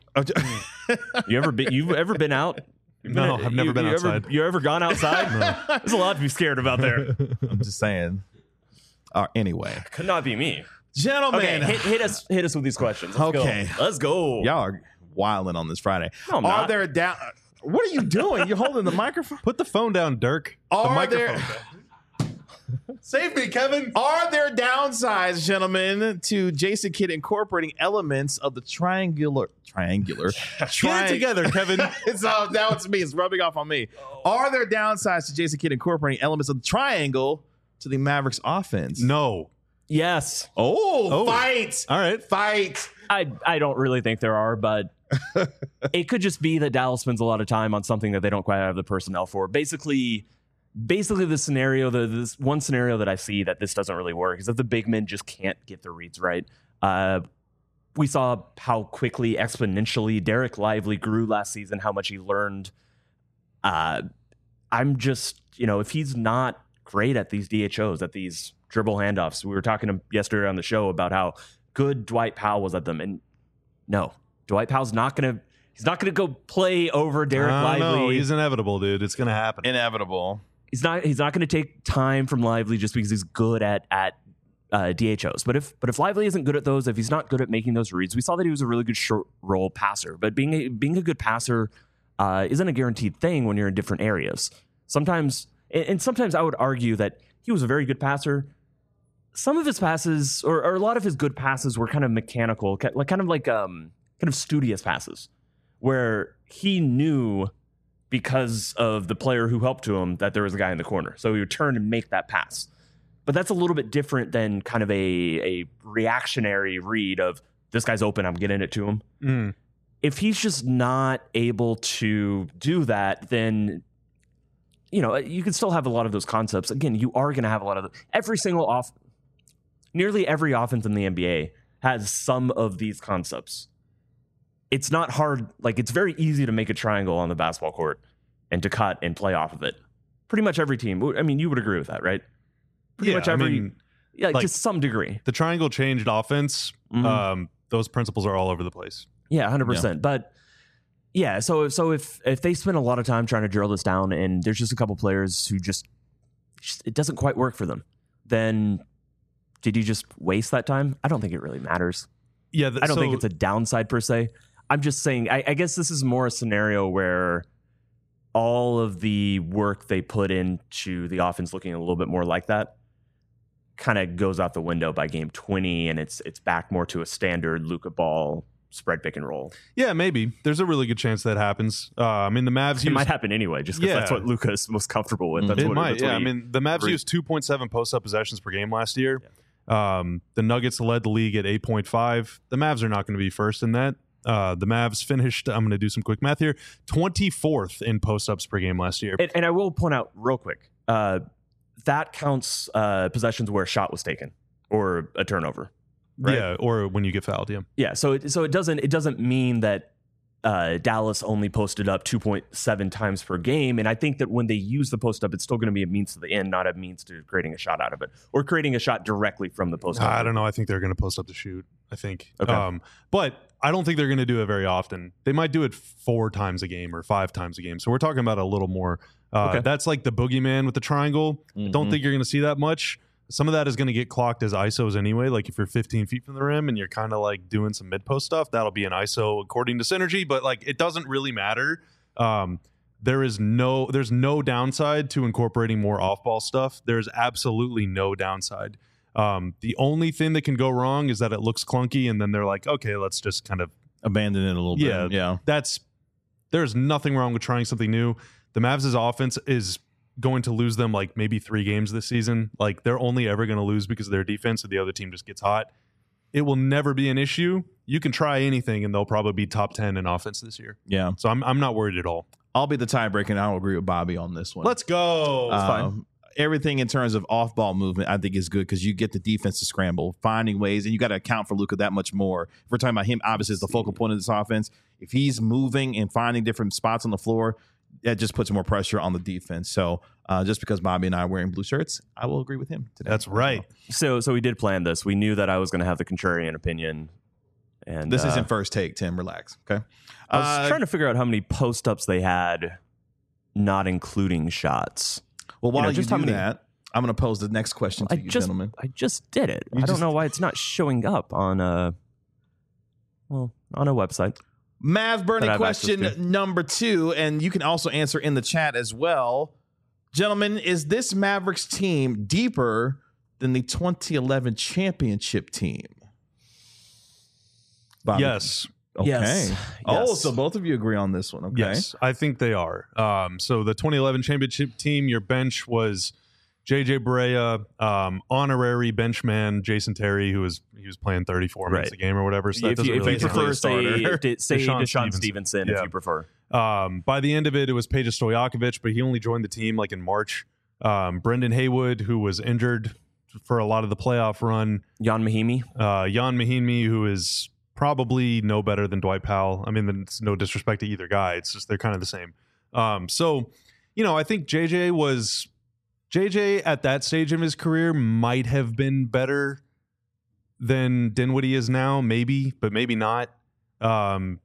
you ever been? You've ever been out? You've No, been, I've never you, been you outside. Ever, you ever gone outside? No. There's a lot to be scared about there. I'm just saying. Uh, anyway, Could not be me. gentlemen, Okay, hit, hit us. Hit us with these questions. Let's Okay. go. Let's go. y'all are wilding on this Friday. No, I'm are not. there down? What are you doing? You're holding the microphone. Put the phone down, Dirk. The Are microphone there- down. Save me, Kevin. Are there downsides, gentlemen, to Jason Kidd incorporating elements of the triangular triangular? Get tri- it together, Kevin. It's all now it's me. It's rubbing off on me. Are there downsides to Jason Kidd incorporating elements of the triangle to the Mavericks offense? No. Yes. Oh, Oh. fight. All right. Fight. I I don't really think there are, but it could just be that Dallas spends a lot of time on something that they don't quite have the personnel for. Basically, basically the scenario, the this one scenario that I see that this doesn't really work is that the big men just can't get the reads right. Uh, we saw how quickly, exponentially Derek Lively grew last season, how much he learned. Uh, I'm just, you know, if he's not great at these D H Os, at these dribble handoffs, we were talking yesterday on the show about how good Dwight Powell was at them, and no, Dwight Powell's not gonna. He's not gonna go play over Derek I don't Lively. know. He's inevitable, dude. It's gonna happen. Inevitable. He's not. He's not gonna take time from Lively just because he's good at at uh, D H Os. But if but if Lively isn't good at those, if he's not good at making those reads, we saw that he was a really good short roll passer. But being a, being a good passer uh, isn't a guaranteed thing when you're in different areas. Sometimes, and, and sometimes I would argue that he was a very good passer. Some of his passes, or, or a lot of his good passes, were kind of mechanical, like kind of like um, kind of studious passes, where he knew because of the player who helped to him that there was a guy in the corner, so he would turn and make that pass. But that's a little bit different than kind of a a reactionary read of this guy's open, I'm getting it to him. Mm. If he's just not able to do that, then you know you can still have a lot of those concepts. Again, you are going to have a lot of the, every single off. Nearly every offense in the N B A has some of these concepts. It's not hard. Like, it's very easy to make a triangle on the basketball court and to cut and play off of it. Pretty much every team. I mean, you would agree with that, right? Pretty Yeah, much I every, mean, yeah, like- to some degree. The triangle changed offense. Mhm. Um, those principles are all over the place. Yeah, one hundred percent. But yeah, so so if if they spend a lot of time trying to drill this down and there's just a couple players who just, just it doesn't quite work for them, then did you just waste that time? I don't think it really matters. Yeah, th- I don't so, think it's a downside per se. I'm just saying, I, I guess this is more a scenario where all of the work they put into the offense looking a little bit more like that kind of goes out the window by game twenty, and it's it's back more to a standard Luka ball spread pick and roll. Yeah, maybe. There's a really good chance that happens. Uh, I mean, the Mavs It use might happen anyway, just because Yeah. that's what Luka is most comfortable with. That's it what, might. that's what Yeah, I he- mean, the Mavs agreed. used two point seven post-up possessions per game last year. Um, the Nuggets led the league at eight point five. The Mavs are not going to be first in that. Uh, the Mavs finished, I'm going to do some quick math here, twenty-fourth in post-ups per game last year. And, and I will point out real quick, uh, that counts uh, possessions where a shot was taken or a turnover. Right? Yeah, or when you get fouled, yeah. Yeah, so it, so it doesn't it doesn't mean that uh, Dallas only posted up two point seven times per game. And I think that when they use the post up, it's still going to be a means to the end, not a means to creating a shot out of it or creating a shot directly from the post up. I don't know. I think they're going to post up the shoot, I think. Okay. Um, but I don't think they're going to do it very often. They might do it four times a game or five times a game. So we're talking about a little more. Uh, Okay. That's like the boogeyman with the triangle. I don't Mhm. think you're going to see that much. Some of that is going to get clocked as I S Os anyway. Like if you're fifteen feet from the rim and you're kind of like doing some mid post stuff, that'll be an I S O according to Synergy. But like it doesn't really matter. Um, there is no, there's no downside to incorporating more off ball stuff. There's absolutely no downside. Um, the only thing that can go wrong is that it looks clunky, and then they're like, okay, let's just kind of Abandon it a little Yeah. bit. Yeah. that's there's nothing wrong with trying something new. The Mavs' offense is going to lose them like maybe three games this season. Like they're only ever going to lose because of their defense and the other team just gets hot. It will never be an issue. You can try anything and they'll probably be top ten in offense this year. Yeah. So I'm I'm not worried at all. I'll be the tiebreaker, and I'll agree with Bobby on this one. Let's go. Um, everything in terms of off ball movement, I think is good because you get the defense to scramble, finding ways, and you got to account for Luka that much more. If we're talking about him, obviously, as the focal point of this offense. If he's moving and finding different spots on the floor, that just puts more pressure on the defense. So uh, just because Bobby and I are wearing blue shirts, I will agree with him today. That's right. So so we did plan this. We knew that I was going to have the contrarian opinion. And This uh, isn't first take, Tim. Relax. Okay. I was Uh, trying to figure out how many post ups they had, not including shots. well, while you know, you just do how many- that, I'm going to pose the next question to I you, just gentlemen. I just did it. You I don't just- know why it's not showing up on a well on a website. Mavs Burning that I've access question to. number two, and you can also answer in the chat as well. Gentlemen, is this Mavericks team deeper than the twenty eleven championship team? Bobby? Yes. Okay. Yes. Oh, Yes. so both of you agree on this one. Okay. Yes, I think they are. Um, so the twenty eleven championship team, your bench was J J Barea, um, honorary benchman Jason Terry, who was he was playing thirty-four minutes Right. a game or whatever. So that if doesn't you, if really you count. prefer, a say, starter. d- say Deshaun Deshaun Stevenson. Stevenson, Yeah. if you prefer. Um, by the end of it, it was Peja Stojakovic, but he only joined the team like in March. Um, Brendan Haywood, who was injured for a lot of the playoff run. Jan Mahimi. Uh, Jan Mahinmi, who is probably no better than Dwight Powell. I mean, it's no disrespect to either guy. It's just they're kind of the same. Um, so, you know, I think J J was J J at that stage of his career might have been better than Dinwiddie is now, maybe, but maybe not. Um,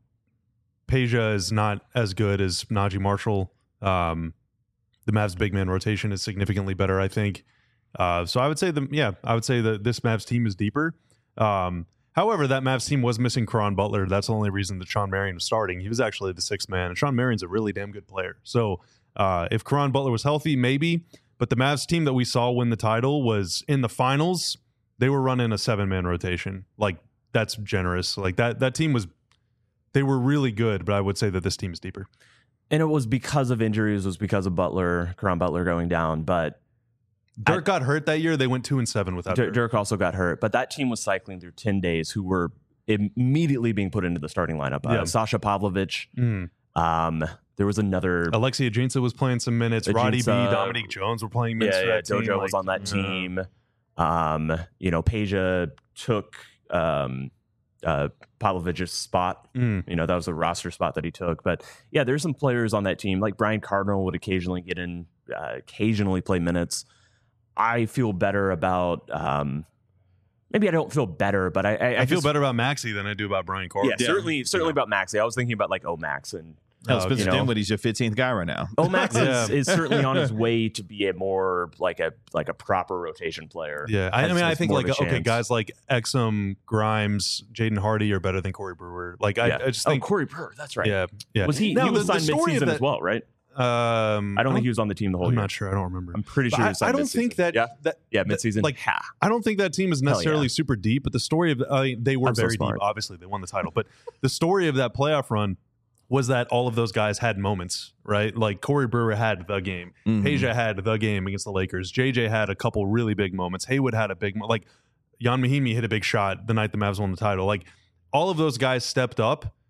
Peja is not as good as Najee Marshall. Um, the Mavs big man rotation is significantly better, I think. Uh, so I would say the yeah, I would say that this Mavs team is deeper. Um, however, that Mavs team was missing Caron Butler. That's the only reason that Sean Marion was starting. He was actually the sixth man, and Sean Marion's a really damn good player. So uh, if Caron Butler was healthy, maybe. But the Mavs team that we saw win the title was in the finals. They were running a seven man rotation. Like that's generous. Like that that team was. They were really good, but I would say that this team is deeper. And it was because of injuries, it was because of Butler, Caron Butler going down. But Dirk got hurt that year. They went two and seven without Dirk, Dirk. Dirk also got hurt. But that team was cycling through ten days who were immediately being put into the starting lineup. Uh, Yeah. Sasha Pavlovich. Mm. Um, there was another. Alexia Ajinça was playing some minutes. Roddy B, Ajinça- Dominique Jones were playing minutes Yeah, for yeah, that team. Dojo was Like, on that yeah. team. Um, you know, Peja took um, uh, Pavlovich's spot. Mm. You know, that was a roster spot that he took. But yeah, there's some players on that team, like Brian Cardinal would occasionally get in, uh, occasionally play minutes. I feel better about. Um, maybe I don't feel better, but I I, I, feel just- better about Maxey than I do about Brian Carter. Yeah, certainly, certainly about Maxey. I was thinking about like Omax and Hell, Oh, Spencer you know. Dinwiddie's your fifteenth guy right now. Omax Yeah. is, is certainly on his way to be a more like a like a proper rotation player. Yeah, I, I Has- mean, I has think more like of a okay, chance. guys like Exum, Grimes, Jaden Hardy are better than Corey Brewer. Like I, Yeah. I just oh, think, Corey Purr, that's right. yeah, yeah. Was he? Now, he was the- the signed story of midseason that- as well, right? Um, I don't think he was on the team the whole I'm year. not sure. I don't remember. I'm pretty But sure. he I, was signed I don't midseason. think that Yeah, that yeah, that- midseason. like ha. I don't think that team is necessarily yeah. super deep, but the story of uh, they were I'm so very deep. smart. Obviously, they won the title, but the story of that playoff run was that all of those guys had moments, right? Like Corey Brewer had the game, Mhm. Peja had the game against the Lakers, J J had a couple really big moments, Haywood had a big mo- like Jan Mahinmi hit a big shot the night the Mavs won the title. Like all of those guys stepped up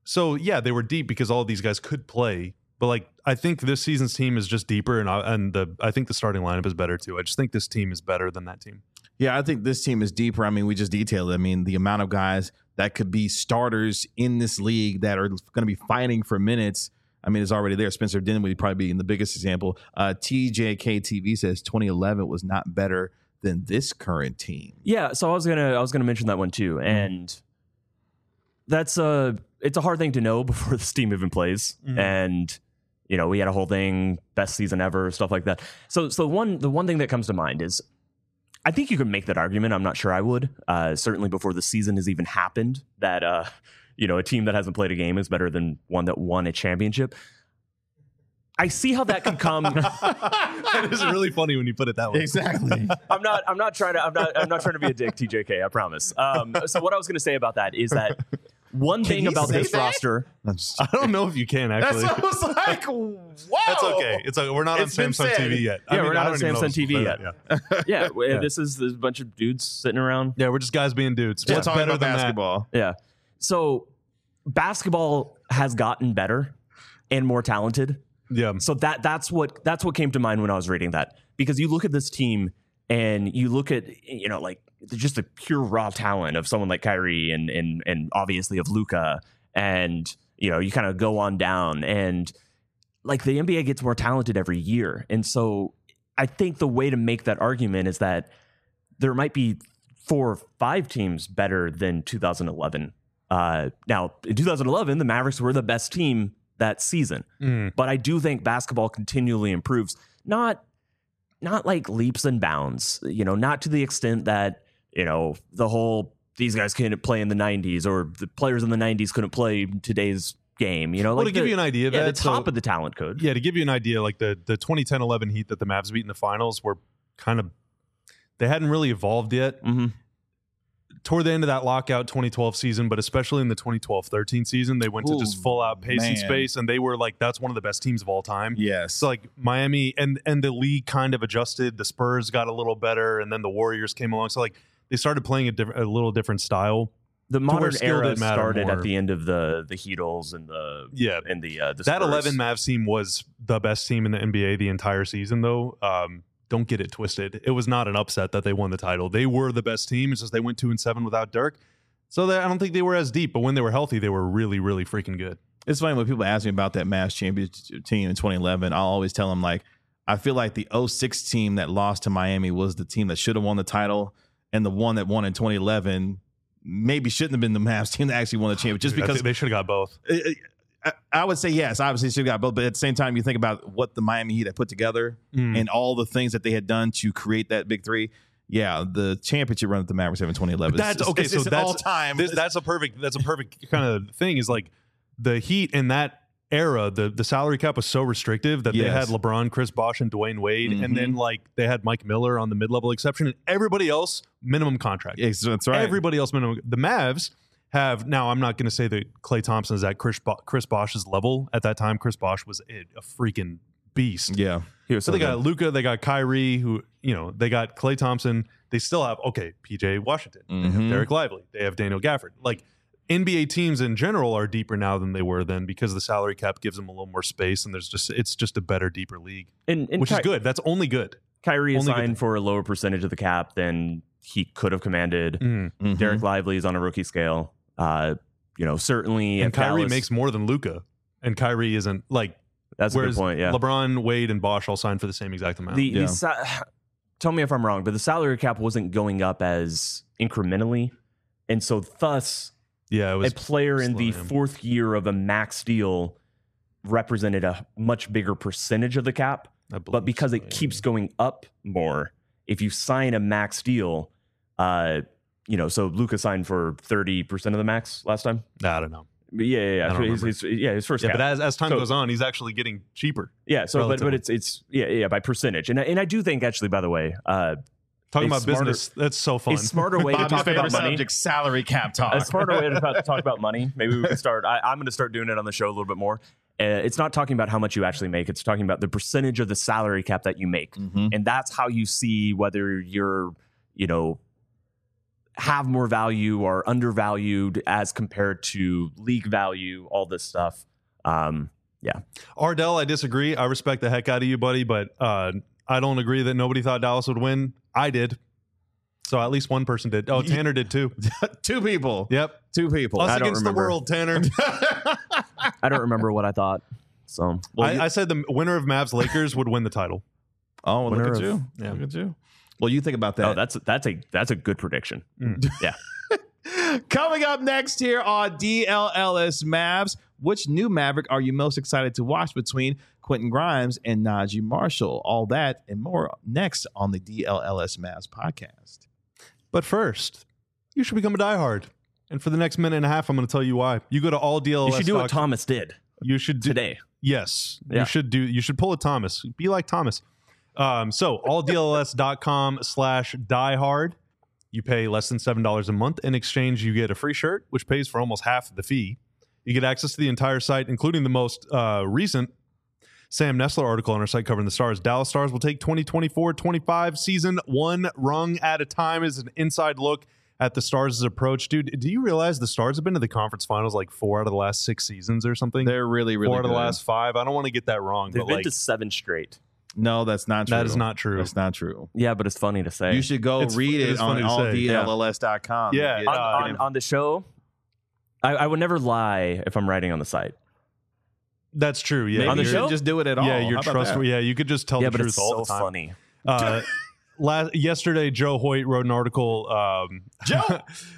So yeah, they were deep because all of these guys could play. But like, I think this season's team is just deeper, and I, and the I think the starting lineup is better too. I just think this team is better than that team. Yeah, I think this team is deeper. I mean, we just detailed it. I mean, the amount of guys that could be starters in this league that are going to be fighting for minutes, I mean, it's already there. Spencer Dinwiddie probably being the biggest example. Uh, T J K T V says twenty eleven was not better than this current team. Yeah, so I was gonna I was gonna mention that one too, and that's a it's a hard thing to know before this team even plays, mm-hmm. and you know we had a whole thing, best season ever, stuff like that. So so one the one thing that comes to mind is, I think you could make that argument. I'm not sure I would. Uh, certainly before the season has even happened, that uh, you know a team that hasn't played a game is better than one that won a championship. I see how that could come. That is really funny when you put it that way. Exactly. I'm not. I'm not trying to. I'm not. I'm not trying to be a dick, T J K. I promise. Um, so what I was going to say about that is that one thing about this that? roster. I don't know if you can actually. That's what I was like. Whoa. That's okay. It's like we're not It's on been Samsung said. T V yet. Yeah, I mean, we're not I on don't even know Samsung if T V it's- yet. Yeah. Yeah, w- Yeah. this is there's a bunch of dudes sitting around. yeah, we're just guys being dudes. We're What's talking better about than that? basketball. Yeah. So basketball has gotten better and more talented. Yeah. So that that's what that's what came to mind when I was reading that, because you look at this team and you look at, you know, like just the pure raw talent of someone like Kyrie and and and obviously of Luka, and you know you kind of go on down, and like the N B A gets more talented every year, and so I think the way to make that argument is that there might be four or five teams better than two thousand eleven. Uh, now in two thousand eleven, the Mavericks were the best team that season. Mm. But I do think basketball continually improves, not not like leaps and bounds, you know, not to the extent that, you know, the whole these guys couldn't play in the nineties or the players in the nineties couldn't play today's game, you know. Well, like to give the, you an idea of yeah, that, the top so- of the talent could. Yeah, to give you an idea, like the the twenty ten eleven Heat that the Mavs beat in the finals were kind of, they hadn't really evolved yet. Mm-hmm. Toward the end of that lockout twenty twelve season, but especially in the twenty twelve thirteen season, they went Ooh, to just full out pace man. and space, and they were like, that's one of the best teams of all time. Yes. So like Miami and and the league kind of adjusted. The Spurs got a little better, and then the Warriors came along. So like they started playing a, diff- a little different style. The where modern skill era didn't matter started more. at the end of the the Heatles and the Yeah. and the uh, the That Spurs. eleven Mavs team was the best team in the N B A the entire season, though. Um, don't get it twisted. It was not an upset that they won the title. They were the best team. It's just they went two and seven without Dirk. So they, I don't think they were as deep, but when they were healthy, they were really, really freaking good. It's funny when people ask me about that Mavs championship team in twenty eleven. I'll always tell them, like, I feel like the oh six team that lost to Miami was the team that should have won the title, and the one that won in twenty eleven maybe shouldn't have been the Mavs team that actually won the championship, just Dude, I because think they should have got both. I, I, I would say yes, obviously should have got both, but at the same time, you think about what the Miami Heat had put together Mm. and all the things that they had done to create that big three. Yeah, the championship run that the Mavericks have in twenty eleven. That's it's, okay. It's, so it's that's all time. This, that's a perfect. That's a perfect kind of thing. Is like the Heat in that era. The the salary cap was so restrictive that they Yes. had LeBron, Chris Bosh, and Dwayne Wade, Mhm. and then like they had Mike Miller on the mid level exception, and everybody else minimum contract. Yes, that's right. Everybody else minimum. The Mavs have now. I'm not going to say that Klay Thompson is at Chris Bo- Chris Bosh's level at that time. Chris Bosh was a, a freaking beast. yeah. He was So they so got good. Luka, they got Kyrie, who, you know, they got Klay Thompson. They still have, okay, P J Washington. They have Mhm. Derek Lively. They have Daniel Gafford. Like, N B A teams in general are deeper now than they were then because the salary cap gives them a little more space, and there's just, it's just a better, deeper league, and, and which Ky- is good. That's only good. Kyrie is Only good signed thing. for a lower percentage of the cap than he could have commanded. Mm. Mhm. Derek Lively is on a rookie scale. Uh, you know, certainly. And if Kyrie Dallas- makes more than Luka, and Kyrie isn't like, That's a good whereas point. Yeah. LeBron, Wade, and Bosh all signed for the same exact amount. The, Yeah. the sa- tell me if I'm wrong, but the salary cap wasn't going up as incrementally, and so thus yeah, it a was player in the slim. fourth year of a max deal represented a much bigger percentage of the cap. I believe But because so, it yeah. keeps going up more, if you sign a max deal, uh, you know, so Luka signed for thirty percent of the max last time. I don't know. But yeah, yeah, I don't yeah. His, his, yeah, his first Yeah, cap. but as, as time So- goes on, he's actually getting cheaper. yeah, so but but relatively. it's it's yeah yeah by percentage, and I- and I do think actually, by the way, uh, Talking A about smarter- business, that's so fun. a smarter way to Bobby's talk favorite about money. subject, salary cap talk. A smarter way to talk, talk about money. Maybe we can start. I, I'm going to start doing it on the show a little bit more. Uh, it's not talking about how much you actually make. It's talking about the percentage of the salary cap that you make, Mhm. and that's how you see whether you're, you know, have more value or undervalued as compared to league value, all this stuff. Um, yeah. Ardell, I disagree. I respect the heck out of you, buddy, but uh, I don't agree that nobody thought Dallas would win. I did. So at least one person did. Oh, Tanner did too. Two people. Yep. Two people. Us I don't against the remember. world, Tanner. I don't remember what I thought. So well, I, you- I said the winner of Mavs Lakers would win the title. Oh, well, look Winner at of- you. yeah. Look at you. Well, you think about that. oh, that's that's a that's a good prediction. Yeah. Coming up next here on D L L S Mavs, which new Maverick are you most excited to watch between Quentin Grimes and Najee Marshall? All that and more next on the D L L S Mavs podcast. But first, you should become a diehard. And for the next minute and a half, I'm going to tell you why. You go to all D L L S. You should do what Thomas did You should do, today. Yes, Yeah. you should do. You should pull a Thomas. Be like Thomas. Um, so all D L L S dot com slash diehard. You pay less than seven dollars a month. In exchange, you get a free shirt, which pays for almost half the fee. You get access to the entire site, including the most uh, recent Sam Nessler article on our site covering the Stars. Dallas Stars will take twenty twenty-four twenty-five season one rung at a time as an inside look at the Stars' approach. Dude, do you realize the Stars have been to the conference finals like four out of the last six seasons or something? They're really, really four out of good. the last five. I don't want to get that wrong, They've but been like to seven straight. No, that's not true. that is not true. That's not true. Yeah, but it's funny to say. You should go It's- read it it is on funny to all say. D L L S dot com. Yeah. Get- on, uh, on, on the show, I, I would never lie if I'm writing on the site. That's true. Yeah, Maybe On the you you're- show? shouldn't just do it at all. Yeah, you're How about trustworthy. that? Yeah, you could just tell yeah, the but truth it's all so the time. funny. Uh, last, yesterday, Joe Hoyt wrote an article. Um, Joe!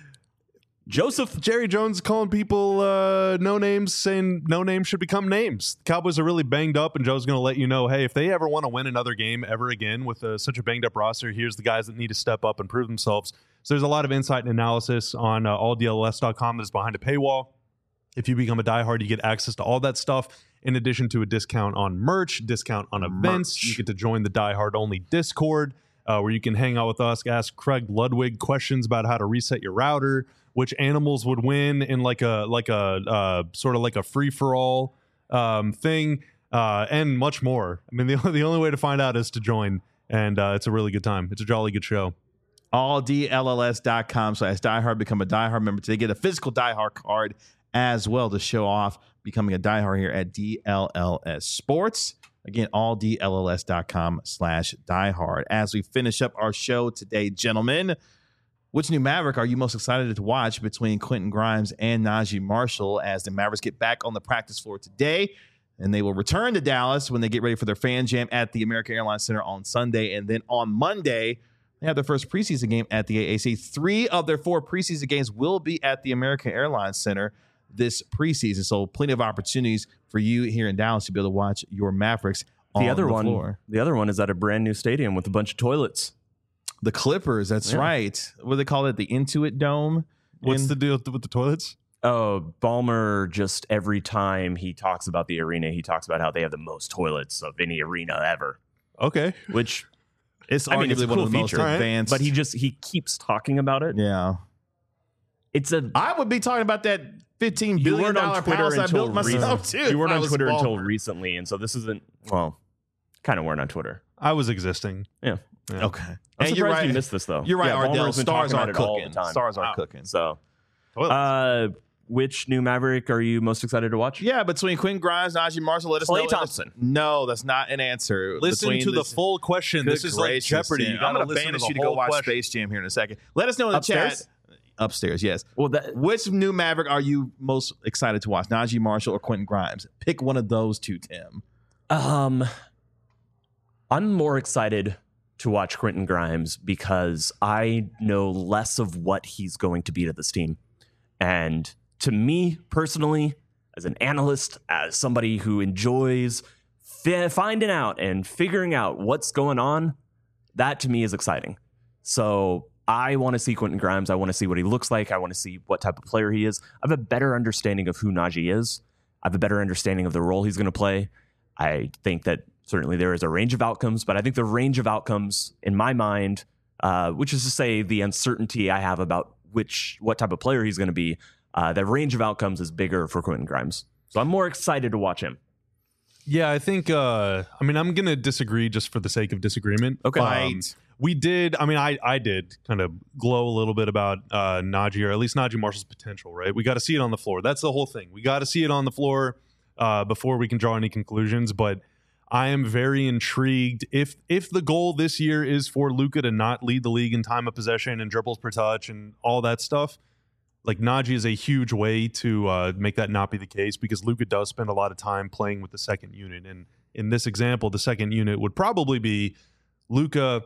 Joseph. Jerry Jones calling people uh, no names, saying no names should become names. The Cowboys are really banged up, and Joe's going to let you know, hey, if they ever want to win another game ever again with uh, such a banged up roster, here's the guys that need to step up and prove themselves. So there's a lot of insight and analysis on uh, all D L L S dot com that is behind a paywall. If you become a diehard, you get access to all that stuff in addition to a discount on merch, discount on events. Merch. You get to join the diehard only Discord uh, where you can hang out with us, ask Craig Ludwig questions about how to reset your router, which animals would win in like a like a uh, sort of like a free for all um, thing, uh, and much more. I mean, the only, the only way to find out is to join, and uh, it's a really good time. It's a jolly good show. all D L L S dot com slash diehard. Become a diehard member today. Get a physical diehard card as well to show off becoming a diehard here at D L L S Sports. Again, all D L L S dot com slash diehard. As we finish up our show today, gentlemen, which new Maverick are you most excited to watch between Quentin Grimes and Najee Marshall as the Mavericks get back on the practice floor today? And they will return to Dallas when they get ready for their fan jam at the American Airlines Center on Sunday. And then on Monday, they have their first preseason game at the A A C. Three of their four preseason games will be at the American Airlines Center this preseason. So plenty of opportunities for you here in Dallas to be able to watch your Mavericks on The other the one, floor. the other one is at a brand new stadium with a bunch of toilets. The Clippers, that's Yeah. right. What do they call it? The Intuit Dome? What's in- the deal with the toilets? Oh, Ballmer, just every time he talks about the arena, he talks about how they have the most toilets of any arena ever, Okay. which, It's I mean, it's a arguably one cool of the most feature, right? advanced. but he just, he keeps talking about it. yeah. It's a, I would be talking about that fifteen you billion weren't dollar on Twitter house I until built myself recently. too. You weren't if I on was Twitter Ballmer. until recently, and so this isn't, well, kind of weren't on Twitter. I was existing. Yeah. Yeah. Okay. I'm and surprised you're right. you missed this, though. You're right, Yeah, Ardell. Ballmer's been Stars talking are about it all the cooking. time. Stars are Wow. cooking. So, Toilets. uh, which new Maverick are you most excited to watch? Yeah, between Quentin Grimes, Najee Marshall, let us Klay know. Thompson. No, that's not an answer. Listen Between to the this- full question. Good This is like gracious, Jeopardy. Tim. You I'm gotta going to listen to banish the you to go whole watch question. Space Jam here in a second. Let us know in the Upstairs? chat. Upstairs, yes. Well, that, Which new Maverick are you most excited to watch? Najee Marshall or Quentin Grimes? Pick one of those two, Tim. Um, I'm more excited to watch Quentin Grimes because I know less of what he's going to be to this team. And to me personally, as an analyst, as somebody who enjoys fi- finding out and figuring out what's going on, that to me is exciting. So I want to see Quentin Grimes. I want to see what he looks like. I want to see what type of player he is. I have a better understanding of who Najee is. I have a better understanding of the role he's going to play. I think that certainly there is a range of outcomes, but I think the range of outcomes in my mind, uh, which is to say the uncertainty I have about which what type of player he's going to be, uh, the range of outcomes is bigger for Quentin Grimes. So I'm more excited to watch him. Yeah, I think. Uh, I mean, I'm gonna disagree just for the sake of disagreement. Okay. Um, Right. we did. I mean, I I did kind of glow a little bit about uh, Najee, or at least Najee Marshall's potential. Right. We got to see it on the floor. That's the whole thing. We got to see it on the floor uh, before we can draw any conclusions. But I am very intrigued. If if the goal this year is for Luka to not lead the league in time of possession and dribbles per touch and all that stuff, like Najee is a huge way to uh, make that not be the case, because Luka does spend a lot of time playing with the second unit. And in this example, the second unit would probably be Luka,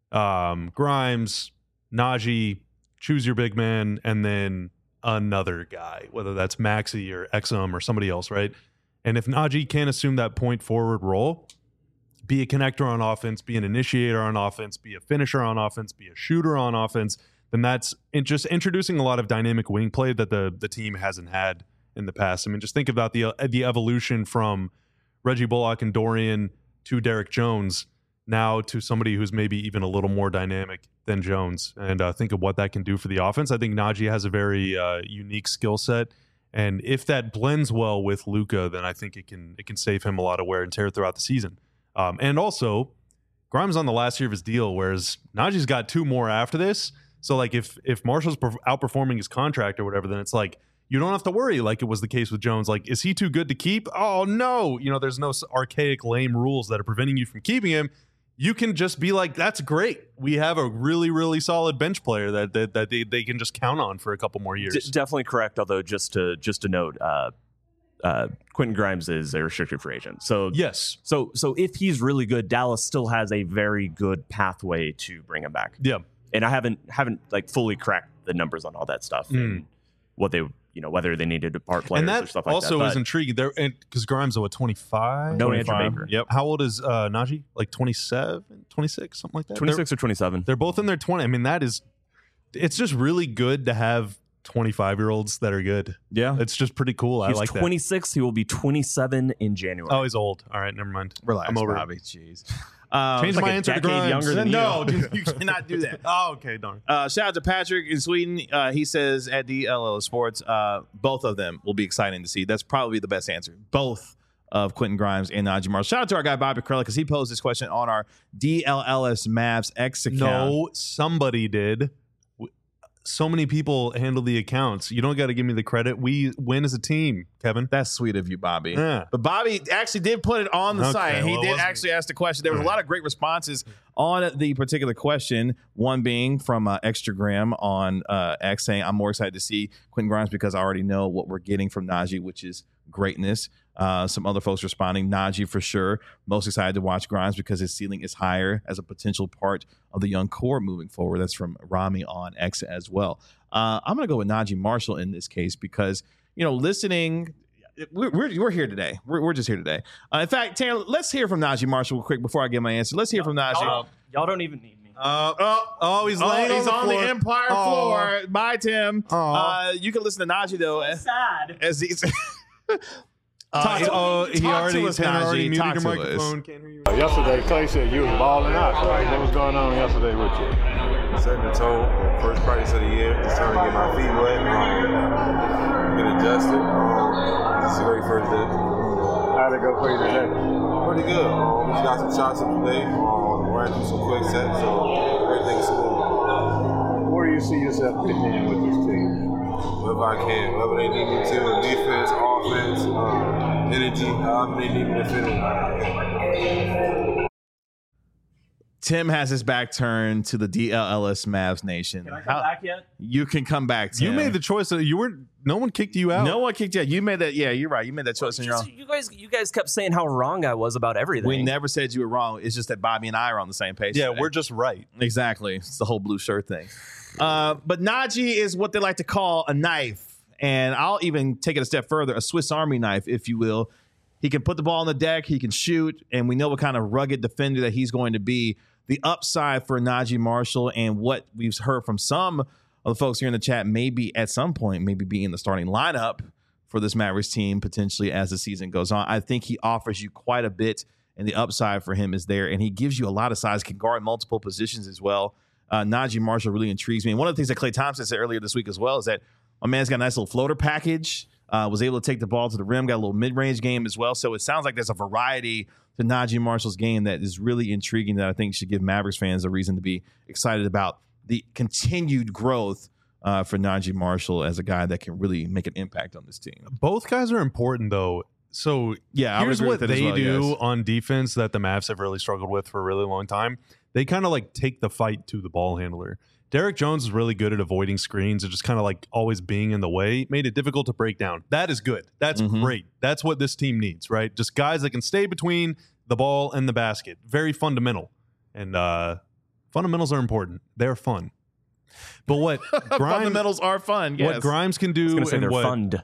um, Grimes, Najee, choose your big man, and then another guy, whether that's Maxey or Exum or somebody else, right? And if Najee can't assume that point forward role, be a connector on offense, be an initiator on offense, be a finisher on offense, be a shooter on offense, then that's in just introducing a lot of dynamic wing play that the the team hasn't had in the past. I mean, just think about the uh, the evolution from Reggie Bullock and Dorian to Derek Jones, now to somebody who's maybe even a little more dynamic than Jones. And uh, think of what that can do for the offense. I think Najee has a very uh, unique skill set. And if that blends well with Luka, then I think it can it can save him a lot of wear and tear throughout the season. Um, and also, Grimes on the last year of his deal, whereas Najee's got two more after this. So, like, if if Marshall's perf- outperforming his contract or whatever, then it's like you don't have to worry like it was the case with Jones. Like, is he too good to keep? Oh, no. You know, there's no archaic, lame rules that are preventing you from keeping him. You can just be like, that's great. We have a really, really solid bench player that that, that they, they can just count on for a couple more years. D- definitely correct. Although, just to just to note, uh, uh, Quentin Grimes is a restricted free agent. So yes. So so if he's really good, Dallas still has a very good pathway to bring him back. Yeah. And I haven't haven't like fully cracked the numbers on all that stuff Mm. and what they you know whether they needed to part players And that or stuff like also that. is intriguing there, because Grimes is what, twenty-five? No Andrew twenty-five? Baker. Yep. How old is uh, Najee? Like twenty-seven, twenty-six, something like that. twenty-six or twenty-seven. They're, they're both in their twenty. I mean, that is. It's just really good to have twenty-five year olds that are good. Yeah. It's just pretty cool. I He's like that. twenty-six. He will be twenty-seven in January. Oh, he's old. All right, never mind. Relax, I'm over it. Bobby. Jeez. Um, Change like my a answer to decade Grimes. younger than no, you. dude, you cannot do that. Oh, okay, darn. Uh, shout out to Patrick in Sweden. Uh, he says at D L L Sports, uh, both of them will be exciting to see. That's probably the best answer. Both of Quentin Grimes and Najee Marshall. Shout out to our guy Bobby Corella, because he posed this question on our D L L S Mavs X account. No, somebody did. So many people handle the accounts. You don't got to give me the credit. We win as a team, Kevin. That's sweet of you, Bobby. Yeah. But Bobby actually did put it on the Okay, site. He well, it did wasn't- actually ask the question. There was a lot of great responses on the particular question. One being from uh, Extragram on uh, X saying, I'm more excited to see Quentin Grimes because I already know what we're getting from Najee, which is greatness. Uh, some other folks responding, Najee for sure. Most excited to watch Grimes because his ceiling is higher as a potential part of the young core moving forward. That's from Rami on X as well. Uh, I'm going to go with Najee Marshall in this case because, you know, listening, we're, we're, we're here today. We're, we're just here today. Uh, in fact, Taylor, let's hear from Najee Marshall real quick before I give my answer. Let's hear from Najee. Y'all, y'all don't even need me. Uh, oh, oh, he's Oh, laying he's on, on the, the, floor. Empire Oh. floor. Bye, Tim. Oh. Uh, you can listen to Najee, though. as- Sad. As he's. Uh, Talk to- oh, he talk already, to us, Tanner already Najee. muted Talk your to us. microphone. Can't hear you. Yesterday, Clay said you was balling out. So what was going on yesterday with you? Setting the tone, first practice of the year, just trying to get my feet wet, um, get adjusted. Um, this is a great first day. How'd it go for you today? Pretty good. Um, just got some shots in today, um, ran through some quick sets, so everything's smooth. Where do you see yourself fitting in with this team? Wherever I can, wherever they need me to, defense, offense, um, energy, however they need me to fit in. Tim has his back turned to the D L L S Mavs Nation. Can I come How- back yet? You can come back, Tim. You made the choice. That you weren't. No one kicked you out. No one kicked you out. You made that. Yeah, you're right. You made that choice on your own. Just- you guys, you guys kept saying how wrong I was about everything. We never said you were wrong. It's just that Bobby and I are on the same page. Yeah, today. we're just right. Exactly. It's the whole blue shirt thing. Uh, but Najee is what they like to call a knife. And I'll even take it a step further, a Swiss Army knife, if you will. He can put the ball on the deck. He can shoot. And we know what kind of rugged defender that he's going to be. The upside for Najee Marshall and what we've heard from some of the folks here in the chat, maybe at some point, maybe be in the starting lineup for this Mavericks team potentially as the season goes on. I think he offers you quite a bit, and the upside for him is there. And he gives you a lot of size, can guard multiple positions as well. Uh, Najee Marshall really intrigues me. And one of the things that Klay Thompson said earlier this week as well is that my man's got a nice little floater package. Uh, was able to take the ball to the rim, got a little mid-range game as well. So it sounds like there's a variety to Najee Marshall's game that is really intriguing that I think should give Mavericks fans a reason to be excited about the continued growth uh, for Najee Marshall as a guy that can really make an impact on this team. Both guys are important, though. So yeah, here's what they well, do yes. on defense that the Mavs have really struggled with for a really long time. They kind of like take the fight to the ball handler. Derek Jones is really good at avoiding screens and just kind of like always being in the way. Made it difficult to break down. That is good. That's Mm-hmm. great. That's what this team needs, right? Just guys that can stay between the ball and the basket. Very fundamental. And uh, fundamentals are important. They're fun. But what Grimes, fundamentals are fun. Yes. What Grimes can do say and they're what fund.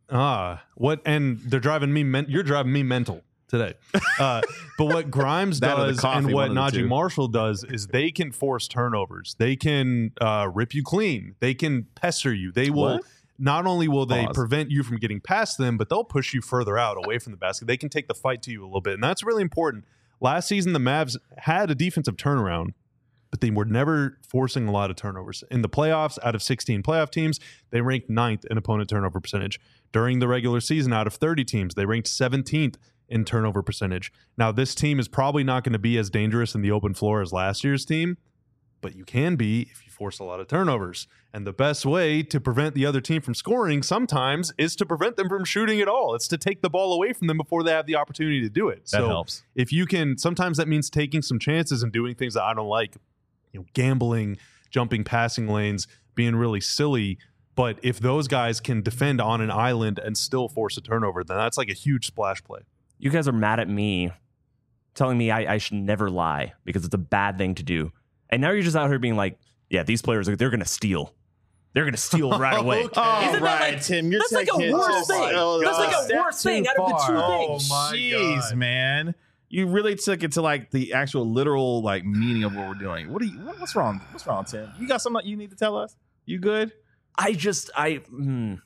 ah what and they're driving me. Men- you're driving me mental today. Uh, but what Grimes That or the does coffee, and what one of the Najee two. Marshall does is they can force turnovers. They can uh, rip you clean. They can pester you. They will. What? Not only will they Pause. prevent you from getting past them, but they'll push you further out away from the basket. They can take the fight to you a little bit, and that's really important. Last season, the Mavs had a defensive turnaround, but they were never forcing a lot of turnovers. In the playoffs, out of sixteen playoff teams, they ranked ninth in opponent turnover percentage. During the regular season, out of thirty teams, they ranked seventeenth in turnover percentage. Now, this team is probably not going to be as dangerous in the open floor as last year's team, but you can be if you force a lot of turnovers. And the best way to prevent the other team from scoring sometimes is to prevent them from shooting at all. It's to take the ball away from them before they have the opportunity to do it. That so helps. if you can, sometimes that means taking some chances and doing things that I don't like, you know, gambling, jumping passing lanes, being really silly. But if those guys can defend on an island and still force a turnover, then that's like a huge splash play. You guys are mad at me, telling me I, I should never lie because it's a bad thing to do. And now you're just out here being like, yeah, these players, are they're going to steal. They're going to steal right away. Okay. Oh, Isn't that right, like, Tim. You're that's like taking a it worse just- thing. oh, That's like step a worse thing too out of the two far. things. Oh, my Jeez, God. man. You really took it to like the actual literal like meaning of what we're doing. What are you? What, what's wrong? What's wrong, Tim? You got something you need to tell us? You good? I just, I, mm,